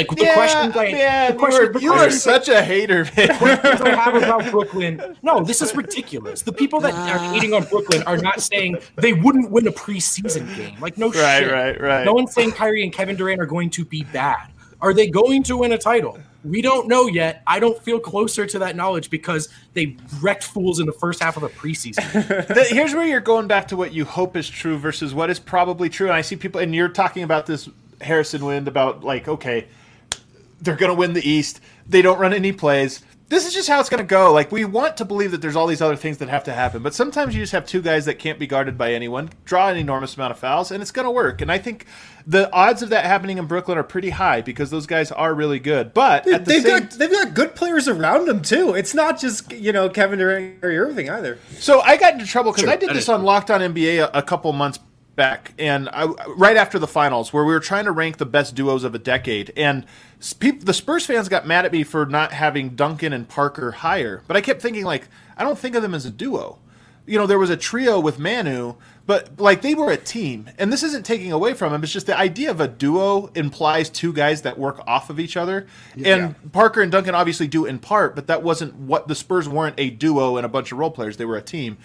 you are such a hater, man. The questions I have about Brooklyn, no, this is ridiculous. The people that are hating on Brooklyn are not saying they wouldn't win a preseason game. Shit. Right. No one's saying Kyrie and Kevin Durant are going to be bad. Are they going to win a title? We don't know yet. I don't feel closer to that knowledge because they wrecked fools in the first half of the preseason. Here's where you're going back to what you hope is true versus what is probably true. And I see people, and you're talking about this, Harrison Wind, about okay, they're going to win the East. They don't run any plays. This is just how it's going to go. We want to believe that there's all these other things that have to happen, but sometimes you just have two guys that can't be guarded by anyone, draw an enormous amount of fouls, and it's going to work. And I think the odds of that happening in Brooklyn are pretty high because those guys are really good. But they've got good players around them too. It's not just Kevin Durant or Irving either. So I got into trouble because I did this on Locked On NBA a couple months back, and right after the finals, where we were trying to rank the best duos of a decade, and the Spurs fans got mad at me for not having Duncan and Parker higher. But I kept thinking, I don't think of them as a duo. There was a trio with Manu, but they were a team, and this isn't taking away from them. It's just the idea of a duo implies two guys that work off of each other. Yeah. And Parker and Duncan obviously do in part, but that wasn't what the Spurs weren't a duo and a bunch of role players. They were a team.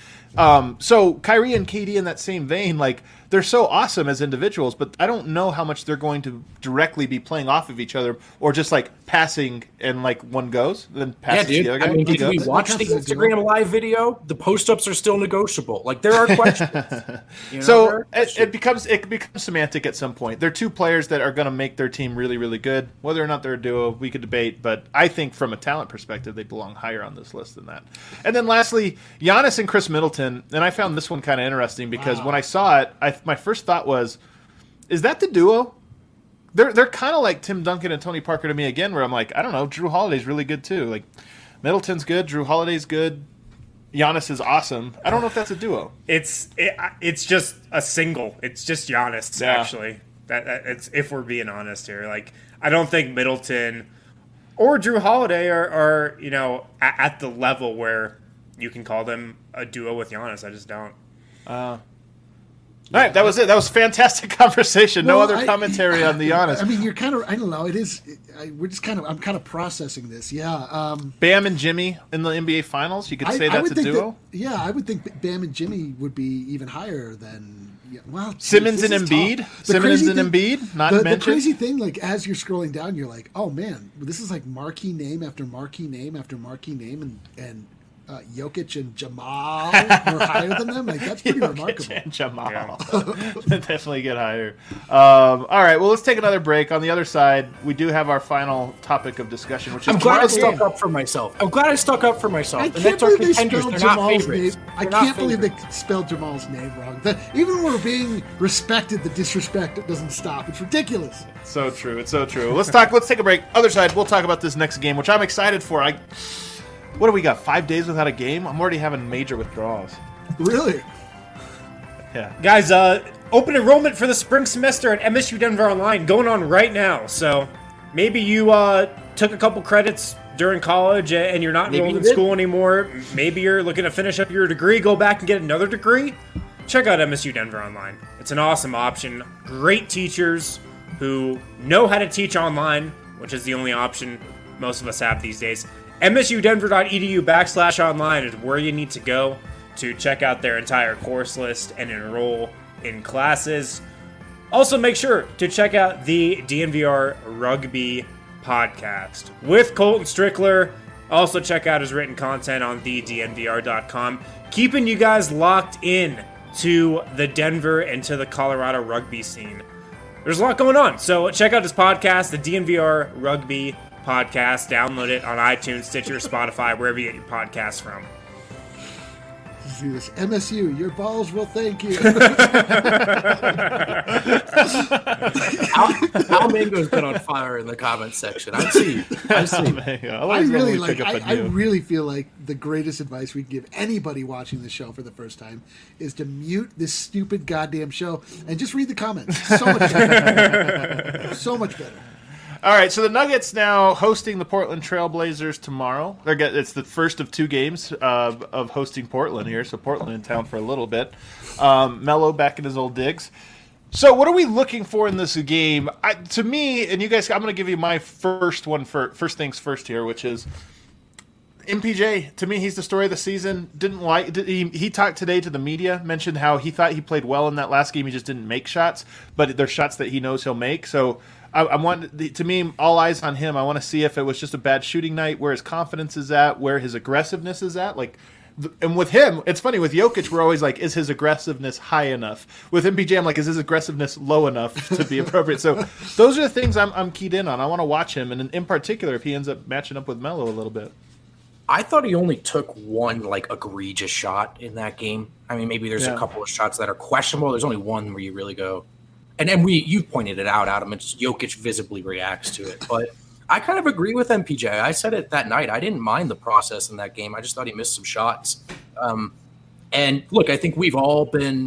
So Kyrie and KD in that same vein, they're so awesome as individuals, but I don't know how much they're going to directly be playing off of each other or just passing and one goes, then passes to the other guy. Did we watch the Instagram live video? The post-ups are still negotiable. There are questions. So it becomes semantic at some point. They're two players that are going to make their team really, really good. Whether or not they're a duo, we could debate, but I think from a talent perspective, they belong higher on this list than that. And then lastly, Giannis and Chris Middleton, and I found this one kind of interesting because when I saw it, my first thought was, is that the duo? They're kind of like Tim Duncan and Tony Parker to me again, where I'm I don't know, Drew Holiday's really good too. Middleton's good, Drew Holiday's good, Giannis is awesome. I don't know if that's a duo. It's just a single. It's just Giannis actually. It's if we're being honest here. I don't think Middleton or Drew Holiday are at the level where you can call them a duo with Giannis. I just don't. All right, that was it. That was a fantastic conversation. No other commentary on the Giannis. I mean, you're kind of, I don't know. It is, I'm kind of processing this. Yeah. Bam and Jimmy in the NBA Finals. You could say that's a duo? I would think Bam and Jimmy would be even higher than, Simmons and Embiid? Simmons and Embiid, not mentioned? The crazy thing, as you're scrolling down, you're like, oh man, this is marquee name after marquee name after marquee name, and Jokic and Jamal were higher than them. That's pretty remarkable. And Jamal. Yeah. Definitely get higher. All right, well, let's take another break. On the other side, we do have our final topic of discussion, which is I'm glad I stuck up for myself. I can't believe they spelled Jamal's name. I can't believe they spelled Jamal's name wrong. Even when we're being respected, the disrespect doesn't stop. It's ridiculous. So true. It's so true. Let's take a break. Other side, we'll talk about this next game, which I'm excited for. What do we got? 5 days without a game? I'm already having major withdrawals. Really? Yeah. Guys, open enrollment for the spring semester at MSU Denver Online going on right now. So maybe you took a couple credits during college and you're not enrolled in school anymore. Maybe you're looking to finish up your degree, go back and get another degree. Check out MSU Denver Online. It's an awesome option. Great teachers who know how to teach online, which is the only option most of us have these days. msudenver.edu/online is where you need to go to check out their entire course list and enroll in classes. Also, make sure to check out the DNVR Rugby podcast with Colton Strickler. Also, check out his written content on thednvr.com. Keeping you guys locked in to the Denver and to the Colorado rugby scene. There's a lot going on, so check out his podcast, the DNVR Rugby podcast. Download it on iTunes, Stitcher, Spotify, wherever you get your podcasts from. See this MSU, your balls will thank you. Al Mango's been on fire in the comments section. I see. I really feel like the greatest advice we can give anybody watching this show for the first time is to mute this stupid goddamn show and just read the comments. So much better. So much better. All right, so the Nuggets now hosting the Portland Trailblazers tomorrow. It's the first of two games of hosting Portland here, so Portland in town for a little bit. Melo back in his old digs. So what are we looking for in this game? To me, and you guys, I'm going to give you my first things first here, which is MPJ. To me, he's the story of the season. He talked today to the media, mentioned how he thought he played well in that last game. He just didn't make shots, but there's shots that he knows he'll make. So I want, to me, all eyes on him. I want to see if it was just a bad shooting night, where his confidence is at, where his aggressiveness is at. And with him, it's funny, with Jokic, we're always like, is his aggressiveness high enough? With MPJ, I'm like, is his aggressiveness low enough to be appropriate? So those are the things I'm keyed in on. I want to watch him, and in particular, if he ends up matching up with Melo a little bit. I thought he only took one egregious shot in that game. I mean, maybe there's a couple of shots that are questionable. There's only one where you really go. And you pointed it out, Adam. It's Jokic visibly reacts to it. But I kind of agree with MPJ. I said it that night. I didn't mind the process in that game. I just thought he missed some shots. And look, I think we've all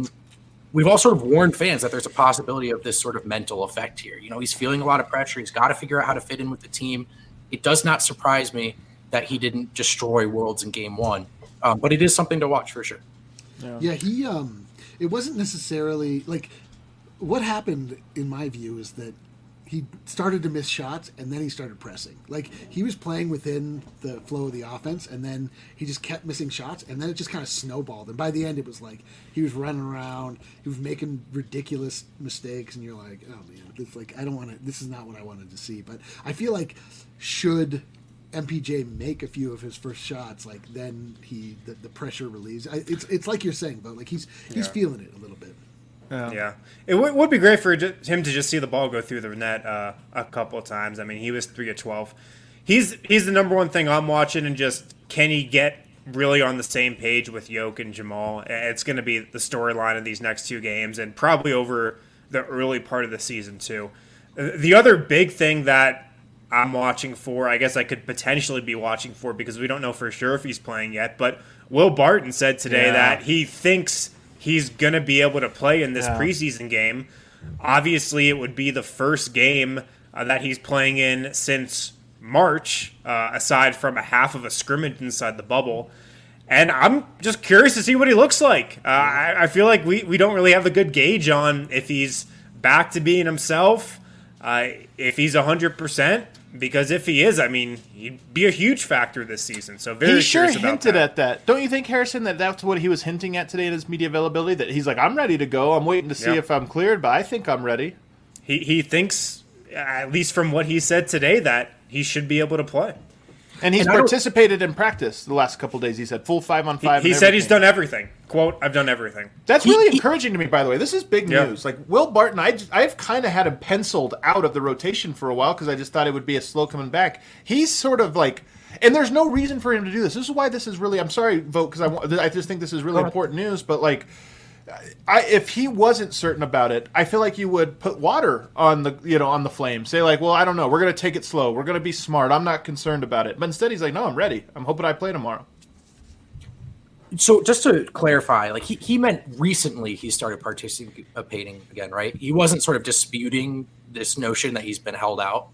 sort of warned fans that there's a possibility of this sort of mental effect here. You know, he's feeling a lot of pressure. He's got to figure out how to fit in with the team. It does not surprise me that he didn't destroy Worlds in game one. But it is something to watch for sure. Yeah, he it wasn't necessarily what happened, in my view, is that he started to miss shots, and then he started pressing. He was playing within the flow of the offense, and then he just kept missing shots, and then it just kind of snowballed. And by the end, it was like he was running around, he was making ridiculous mistakes, and you're like, oh man, this is not what I wanted to see. But I feel like should MPJ make a few of his first shots, then the pressure relieves. It's like you're saying, but he's feeling it a little bit. Yeah. It would be great for him to just see the ball go through the net a couple of times. I mean, he was 3 of 12. He's the number one thing I'm watching, and just can he get really on the same page with Yoke and Jamal? It's going to be the storyline of these next two games, and probably over the early part of the season too. The other big thing that I'm watching for, I guess I could potentially be watching for, because we don't know for sure if he's playing yet, but Will Barton said today that he thinks he's going to be able to play in this preseason game. Obviously, it would be the first game that he's playing in since March, aside from a half of a scrimmage inside the bubble. And I'm just curious to see what he looks like. I feel like we don't really have a good gauge on if he's back to being himself, if he's 100%. Because if he is, I mean, he'd be a huge factor this season. So very curious about that. He sure hinted at that. Don't you think, Harrison, that that's what he was hinting at today in his media availability? That he's like, I'm ready to go. I'm waiting to see if I'm cleared, but I think I'm ready. He thinks, at least from what he said today, that he should be able to play. And he's participated in practice the last couple of days. He said full 5-on-5. He said he's done everything. Quote, I've done everything. That's really encouraging to me, by the way. This is big news. Will Barton, I've kind of had him penciled out of the rotation for a while because I just thought it would be a slow coming back. He's sort of and there's no reason for him to do this. This is why this is really, I'm sorry, Vogt, because I just think this is really important news, but if he wasn't certain about it, I feel like you would put water on the flame. Say well, I don't know. We're going to take it slow. We're going to be smart. I'm not concerned about it. But instead, he's like, no, I'm ready. I'm hoping I play tomorrow. So just to clarify, like he meant recently he started participating again, right? He wasn't sort of disputing this notion that he's been held out.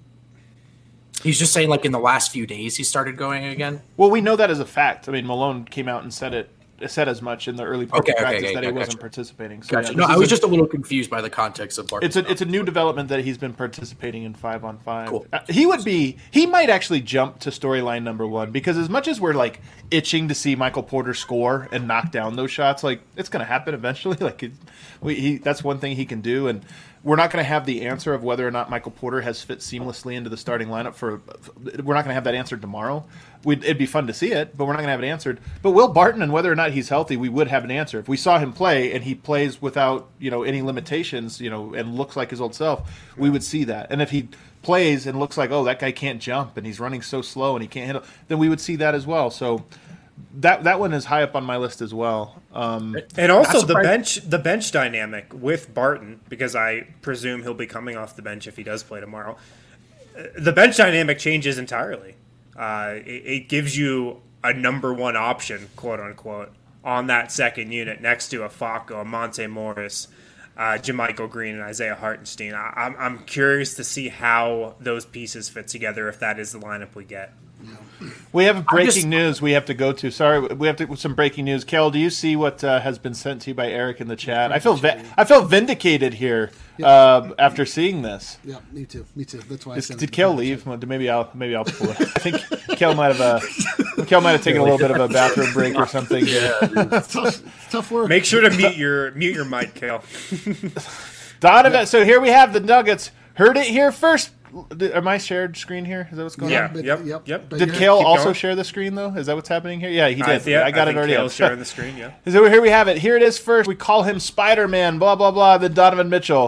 He's just saying like in the last few days he started going again. Well, we know that as a fact. I mean, Malone came out and said as much in the early part of practice that he wasn't participating. So Gotcha. No, I was just a little confused by the context of Barton. It's a new development that he's been participating in 5-on-5. Cool. He might actually jump to storyline number 1 because as much as we're like itching to see Michael Porter score and knock down those shots, like it's going to happen eventually. Like that's one thing he can do, and we're not going to have the answer of whether or not Michael Porter has fit seamlessly into the starting lineup. We're not going to have that answer tomorrow. It'd be fun to see it, but we're not going to have it answered. But Will Barton and whether or not he's healthy, we would have an answer. If we saw him play and he plays without any limitations, and looks like his old self, we would see that. And if he plays and looks like, oh, that guy can't jump and he's running so slow and he can't handle, then we would see that as well. So that one is high up on my list as well. And also the bench dynamic with Barton, because I presume he'll be coming off the bench if he does play tomorrow. The bench dynamic changes entirely. It gives you a number 1 option, quote unquote, on that second unit next to a Facu, a Monte Morris, JaMychal Green, and Isaiah Hartenstein. I'm curious to see how those pieces fit together if that is the lineup we get. We have breaking news we have to go to. Sorry, we have to some breaking news. Kel, do you see what has been sent to you by Eric in the chat? I feel vindicated here after seeing this. Yeah, me too. That's why. Did Kel leave? Maybe I'll pull it. I think Kel might have taken a little bit of a bathroom break or something. Yeah, it's tough work. Make sure to mute your mic, Kel. Donovan. So here we have the Nuggets. Heard it here first. Am I shared screen here? Is that what's going on? Yep. Did Kale also share the screen though? Is that what's happening here? Yeah, he did. I got it already. Kale's sharing the screen. Yeah. So here we have it. Here it is. First, we call him Spider-Man. Blah blah blah. Then Donovan Mitchell.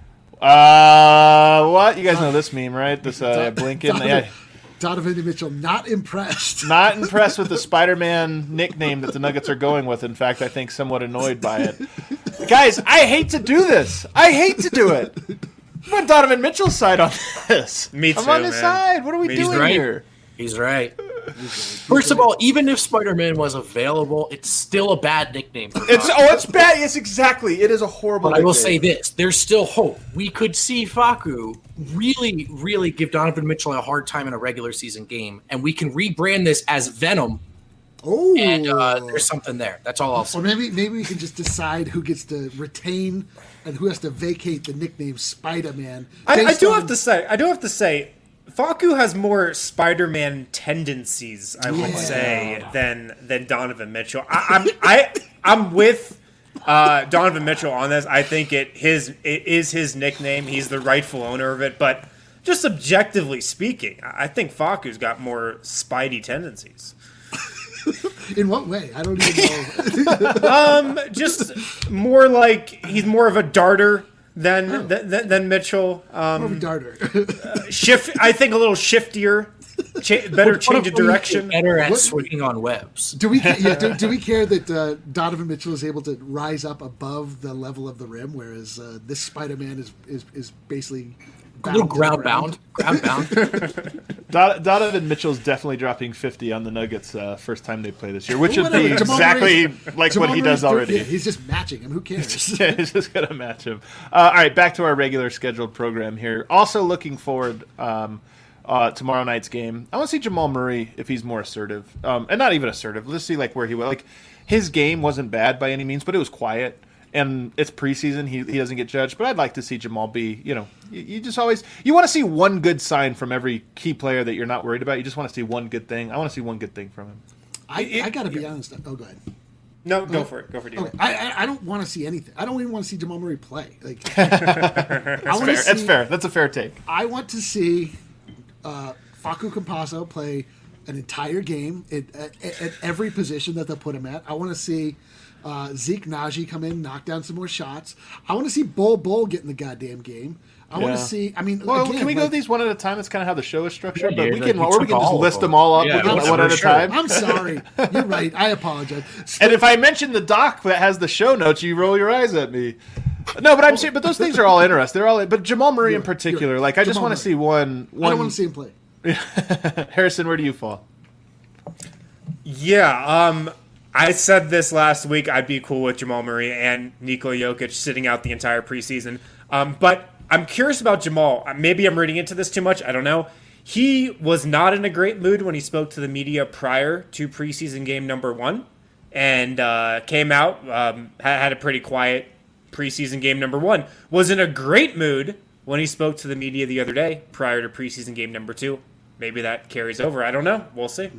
What? You guys know this meme, right? This Blinken. Donovan Mitchell not impressed. Not impressed with the Spider-Man nickname that the Nuggets are going with. In fact, I think somewhat annoyed by it. Guys, I hate to do this. I hate to do it. I'm on Donovan Mitchell's side on this. Me too, I'm on his side. What are we doing here? He's right. First of all, even if Spider-Man was available, it's still a bad nickname. It's bad. Yes, exactly. It is a horrible nickname. I will say this. There's still hope. We could see Facu really, really give Donovan Mitchell a hard time in a regular season game, and we can rebrand this as Venom. Oh, and there's something there. That's all I'll say. Or maybe we can just decide who gets to retain and who has to vacate the nickname Spider-Man. I do have to say, Facu has more Spider-Man tendencies, I would say, than Donovan Mitchell. I'm with Donovan Mitchell on this. I think it is his nickname. He's the rightful owner of it. But just objectively speaking, I think Facu's got more Spidey tendencies. In what way? I don't even know. Just more like he's more of a darter than Mitchell. More of a darter. I think a little shiftier, better change of direction. Better at swinging on webs. Do we care that Donovan Mitchell is able to rise up above the level of the rim, whereas this Spider-Man is basically a little ground bound. Donovan Mitchell's definitely dropping 50 on the Nuggets first time they play this year, which would be exactly like what he does already. He's just matching him. Who cares? He's just going to match him. All right, back to our regular scheduled program here. Also looking forward tomorrow night's game. I want to see Jamal Murray if he's more assertive. And not even assertive. Let's see where he was. His game wasn't bad by any means, but it was quiet. And it's preseason; he doesn't get judged. But I'd like to see Jamal be, you just always want to see one good sign from every key player that you're not worried about. You just want to see one good thing. I want to see one good thing from him. I got to be honest. Oh, go ahead. No, go for it. Go for it. Okay. I don't want to see anything. I don't even want to see Jamal Murray play. That's fair. That's a fair take. I want to see Facu Campazzo play an entire game at every position that they'll put him at. I want to see Zeke Naji come in, knock down some more shots. I want to see Bol get in the goddamn game. I want to see. I mean, can we go these one at a time? That's kind of how the show is structured. But we can just list them all up one at a time. I'm sorry. You're right. I apologize. And if I mention the doc that has the show notes, you roll your eyes at me. No, but I'm saying, but those things are all interesting. They're all. But Jamal Murray in particular, I just want to see one. I don't want to see him play. Harrison, where do you fall? Yeah. I said this last week. I'd be cool with Jamal Murray and Nikola Jokic sitting out the entire preseason. But I'm curious about Jamal. Maybe I'm reading into this too much. I don't know. He was not in a great mood when he spoke to the media prior to preseason game number 1, and came out, had a pretty quiet preseason game number 1. Was in a great mood when he spoke to the media the other day prior to preseason game number 2. Maybe that carries over. I don't know. We'll see.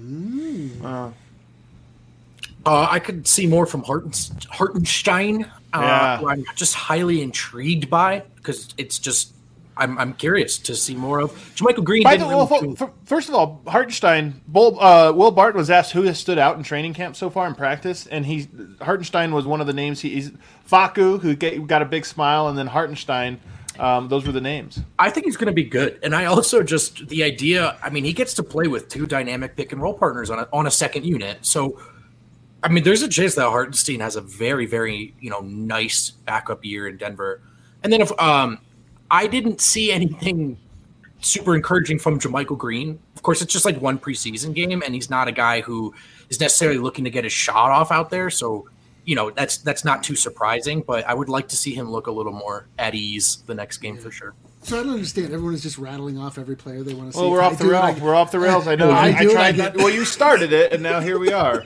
I could see more from Hartenstein, who I'm just highly intrigued by, because it's just I'm curious to see more of. JaMychal Green. First of all, Hartenstein, Will Barton was asked who has stood out in training camp so far in practice, and Hartenstein was one of the names. He's Facu, who got a big smile, and then Hartenstein. Those were the names. I think he's going to be good, and I also just the idea. I mean, he gets to play with 2 dynamic pick and roll partners on a second unit, so. I mean, there's a chance that Hartenstein has a very, very, nice backup year in Denver. And then if I didn't see anything super encouraging from JaMychal Green. Of course, it's just like one preseason game, and he's not a guy who is necessarily looking to get his shot off out there. So, that's not too surprising. But I would like to see him look a little more at ease the next game for sure. So I don't understand. Everyone is just rattling off every player they want to see. Well, we're off the rails. We're off the rails. I know. I tried that. Well, you started it, and now here we are.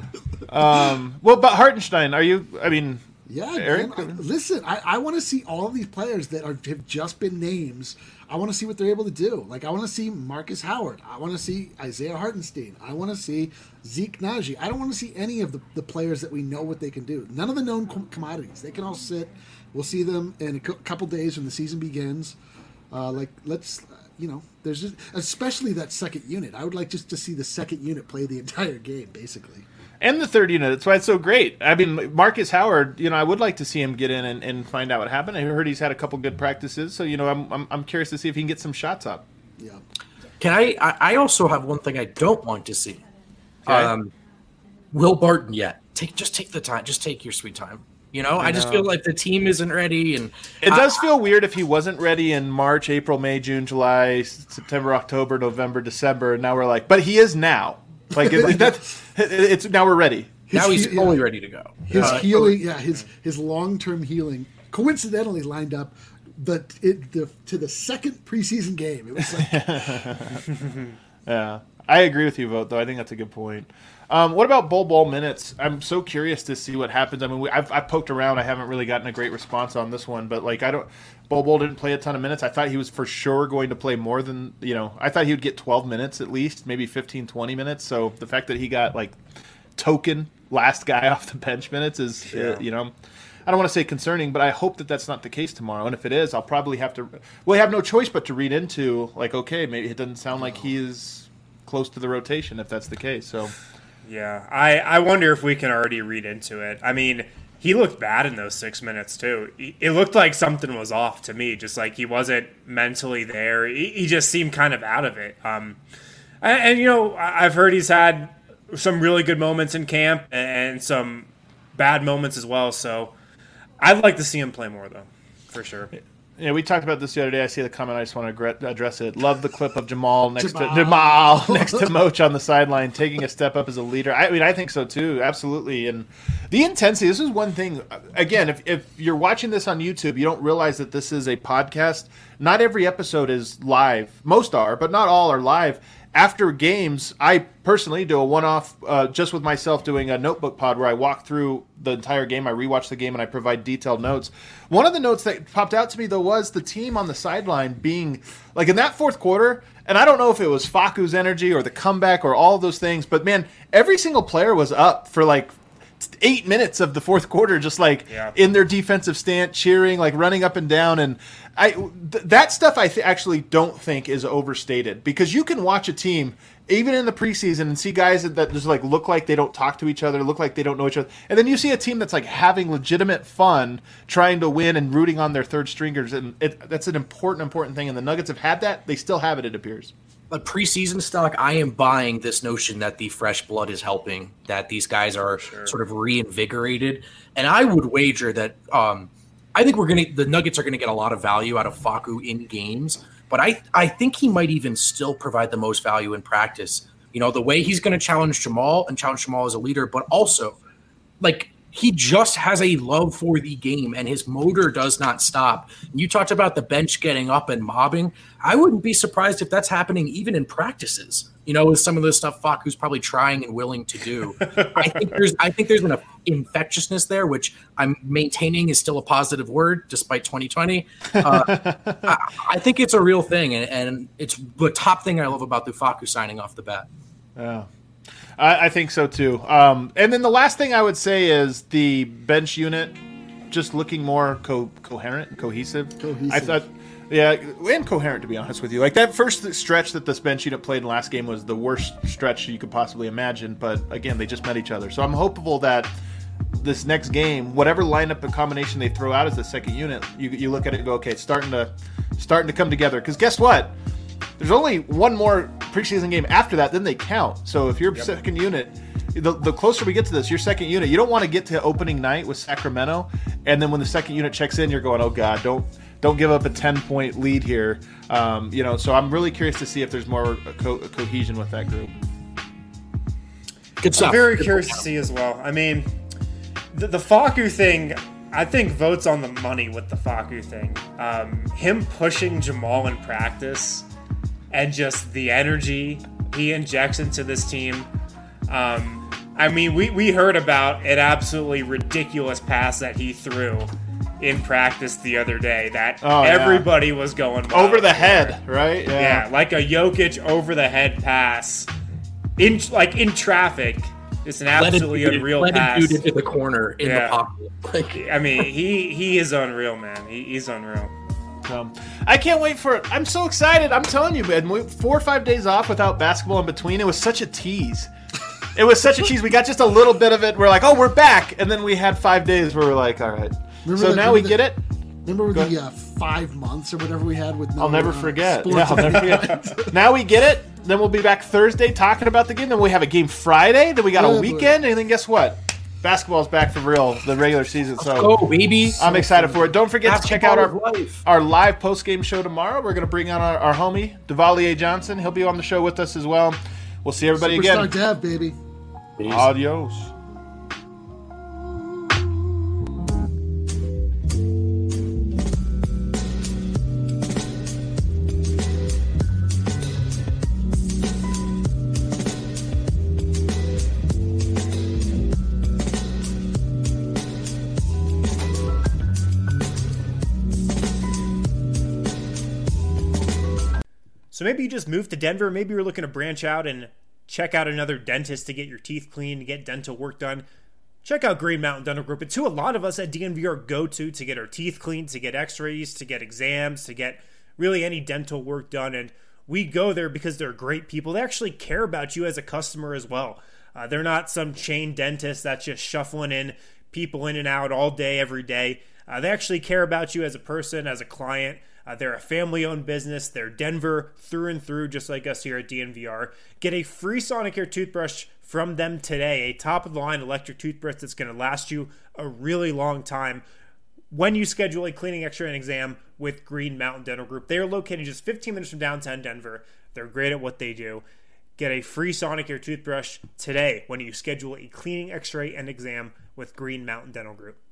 But Hartenstein, are you? I mean, yeah, Eric. Man, listen, I want to see all of these players that have just been names. I want to see what they're able to do. Like, I want to see Marcus Howard. I want to see Isaiah Hartenstein. I want to see Zeke Naji. I don't want to see any of the players that we know what they can do. None of the known commodities. They can all sit. We'll see them in a couple days when the season begins. There's just, especially that second unit. I would like just to see the second unit play the entire game, basically. And the third unit. That's why it's so great. I mean, Marcus Howard, I would like to see him get in and find out what happened. I heard he's had a couple good practices, so I'm curious to see if he can get some shots up. Yeah. Can I also have one thing I don't want to see. Okay. Will Barton yet. Just take the time. Just take your sweet time. I just feel like the team isn't ready, and it does feel weird if he wasn't ready in March, April, May, June, July, September, October, November, December, and now we're like, but he is now. Like it's now we're ready. Now he's fully ready to go. His healing, his long-term healing, coincidentally lined up to the second preseason game. It was like, yeah, I agree with you, Vogt. Though I think that's a good point. What about Bol minutes? I'm so curious to see what happens. I mean, I've poked around. I haven't really gotten a great response on this one, but Bol didn't play a ton of minutes. I thought he was for sure going to play more than, I thought he would get 12 minutes at least, maybe 15, 20 minutes. So the fact that he got token last guy off the bench minutes is, I don't want to say concerning, but I hope that that's not the case tomorrow. And if it is, I'll probably have to, have no choice but to read into okay, maybe it doesn't sound like he is close to the rotation if that's the case. So. Yeah, I wonder if we can already read into it. I mean, he looked bad in those 6 minutes, too. It looked like something was off to me, just like he wasn't mentally there. He just seemed kind of out of it. I've heard he's had some really good moments in camp and some bad moments as well, so I'd like to see him play more, though, for sure. Yeah, we talked about this the other day. I see the comment. I just want to address it. Love the clip of Jamal next to Moch on the sideline, taking a step up as a leader. I mean, I think so too, absolutely. And the intensity. This is one thing. Again, if you're watching this on YouTube, you don't realize that this is a podcast. Not every episode is live. Most are, but not all are live. After games, I personally do a one-off just with myself doing a notebook pod where I walk through the entire game, I rewatch the game, and I provide detailed notes. One of the notes that popped out to me, though, was the team on the sideline being, in that fourth quarter, and I don't know if it was Facu's energy or the comeback or all of those things, but, man, every single player was up for, 8 minutes of the fourth quarter, just in their defensive stance, cheering, running up and down. And that stuff I actually don't think is overstated, because you can watch a team even in the preseason and see guys that just look like they don't talk to each other, look like they don't know each other. And then you see a team that's having legitimate fun trying to win and rooting on their third stringers. And that's an important thing. And the Nuggets have had that. They still have it, it appears. But preseason stock, I am buying this notion that the fresh blood is helping, that these guys are sort of reinvigorated. And I would wager that I think the Nuggets are going to get a lot of value out of Facu in games, but I think he might even still provide the most value in practice You know, the way he's going to challenge Jamal and challenge Jamal as a leader, but also, like, he just has a love for the game and his motor does not stop. And you talked about the bench getting up and mobbing. I wouldn't be surprised if that's happening even in practices, you know, with some of the stuff Facu's probably trying and willing to do. I think there's an infectiousness there, which I'm maintaining is still a positive word despite 2020. I think it's a real thing. And it's the top thing I love about the Facu signing off the bat. Yeah. I think so too. And then the last thing I would say is the bench unit just looking more coherent and cohesive. I thought, yeah, and coherent, to be honest with you. Like that first stretch that this bench unit played in the last game was the worst stretch you could possibly imagine. But again, they just met each other. So I'm hopeful that this next game, whatever lineup and combination they throw out as the second unit, you look at it and go, okay, it's starting to come together. Because guess what? There's only one more preseason game after that, then they count. So if your second unit, the closer we get to this, your second unit, you don't want to get to opening night with Sacramento, and then when the second unit checks in, you're going, oh God, don't give up a 10-point lead here. You know, so I'm really curious to see if there's more cohesion with that group. Good stuff. I'm very curious to see as well. I mean, the Facu thing, I think votes on the money with the Facu thing. Him pushing Jamal in practice and just the energy he injects into this team. I mean, we heard about an absolutely ridiculous pass that he threw in practice the other day that everybody was going wild over the for. head, right? Yeah, like a Jokic over the head pass in traffic. It's an absolutely unreal pass. Dude into the corner in the pocket. I mean, he is unreal, man. He's unreal. I can't wait for it. I'm so excited. I'm telling you, man. 4 or 5 days off without basketball in between. It was such a tease. It was such a tease. We got just a little bit of it. We're like, oh, we're back. And then we had 5 days where we're like, all right. Now we get it. Remember the 5 months or whatever we had with no, I'll never forget. sports Yeah, I'll never forget. Now we get it. Then we'll be back Thursday talking about the game. Then we have a game Friday. Then we got a weekend. And then guess what? Basketball's back for real, the regular season. So, baby. I'm excited for it. Don't forget to check out our live post-game show tomorrow. We're going to bring on our homie, Devalier Johnson. He'll be on the show with us as well. We'll see everybody Superstar again. Dev, baby. Peace. Adios. So maybe you just moved to Denver. Maybe you're looking to branch out and check out another dentist to get your teeth cleaned, to get dental work done. Check out Green Mountain Dental Group. It's who a lot of us at DNVR go to get our teeth cleaned, to get x-rays, to get exams, to get really any dental work done. And we go there because they're great people. They actually care about you as a customer as well. They're not some chain dentist that's just shuffling in people in and out all day, every day. They actually care about you as a person, as a client. They're a family-owned business. They're Denver through and through, just like us here at DNVR. Get a free Sonicare toothbrush from them today, a top-of-the-line electric toothbrush that's going to last you a really long time when you schedule a cleaning, x-ray, and exam with Green Mountain Dental Group. They are located just 15 minutes from downtown Denver. They're great at what they do. Get a free Sonicare toothbrush today when you schedule a cleaning, x-ray, and exam with Green Mountain Dental Group.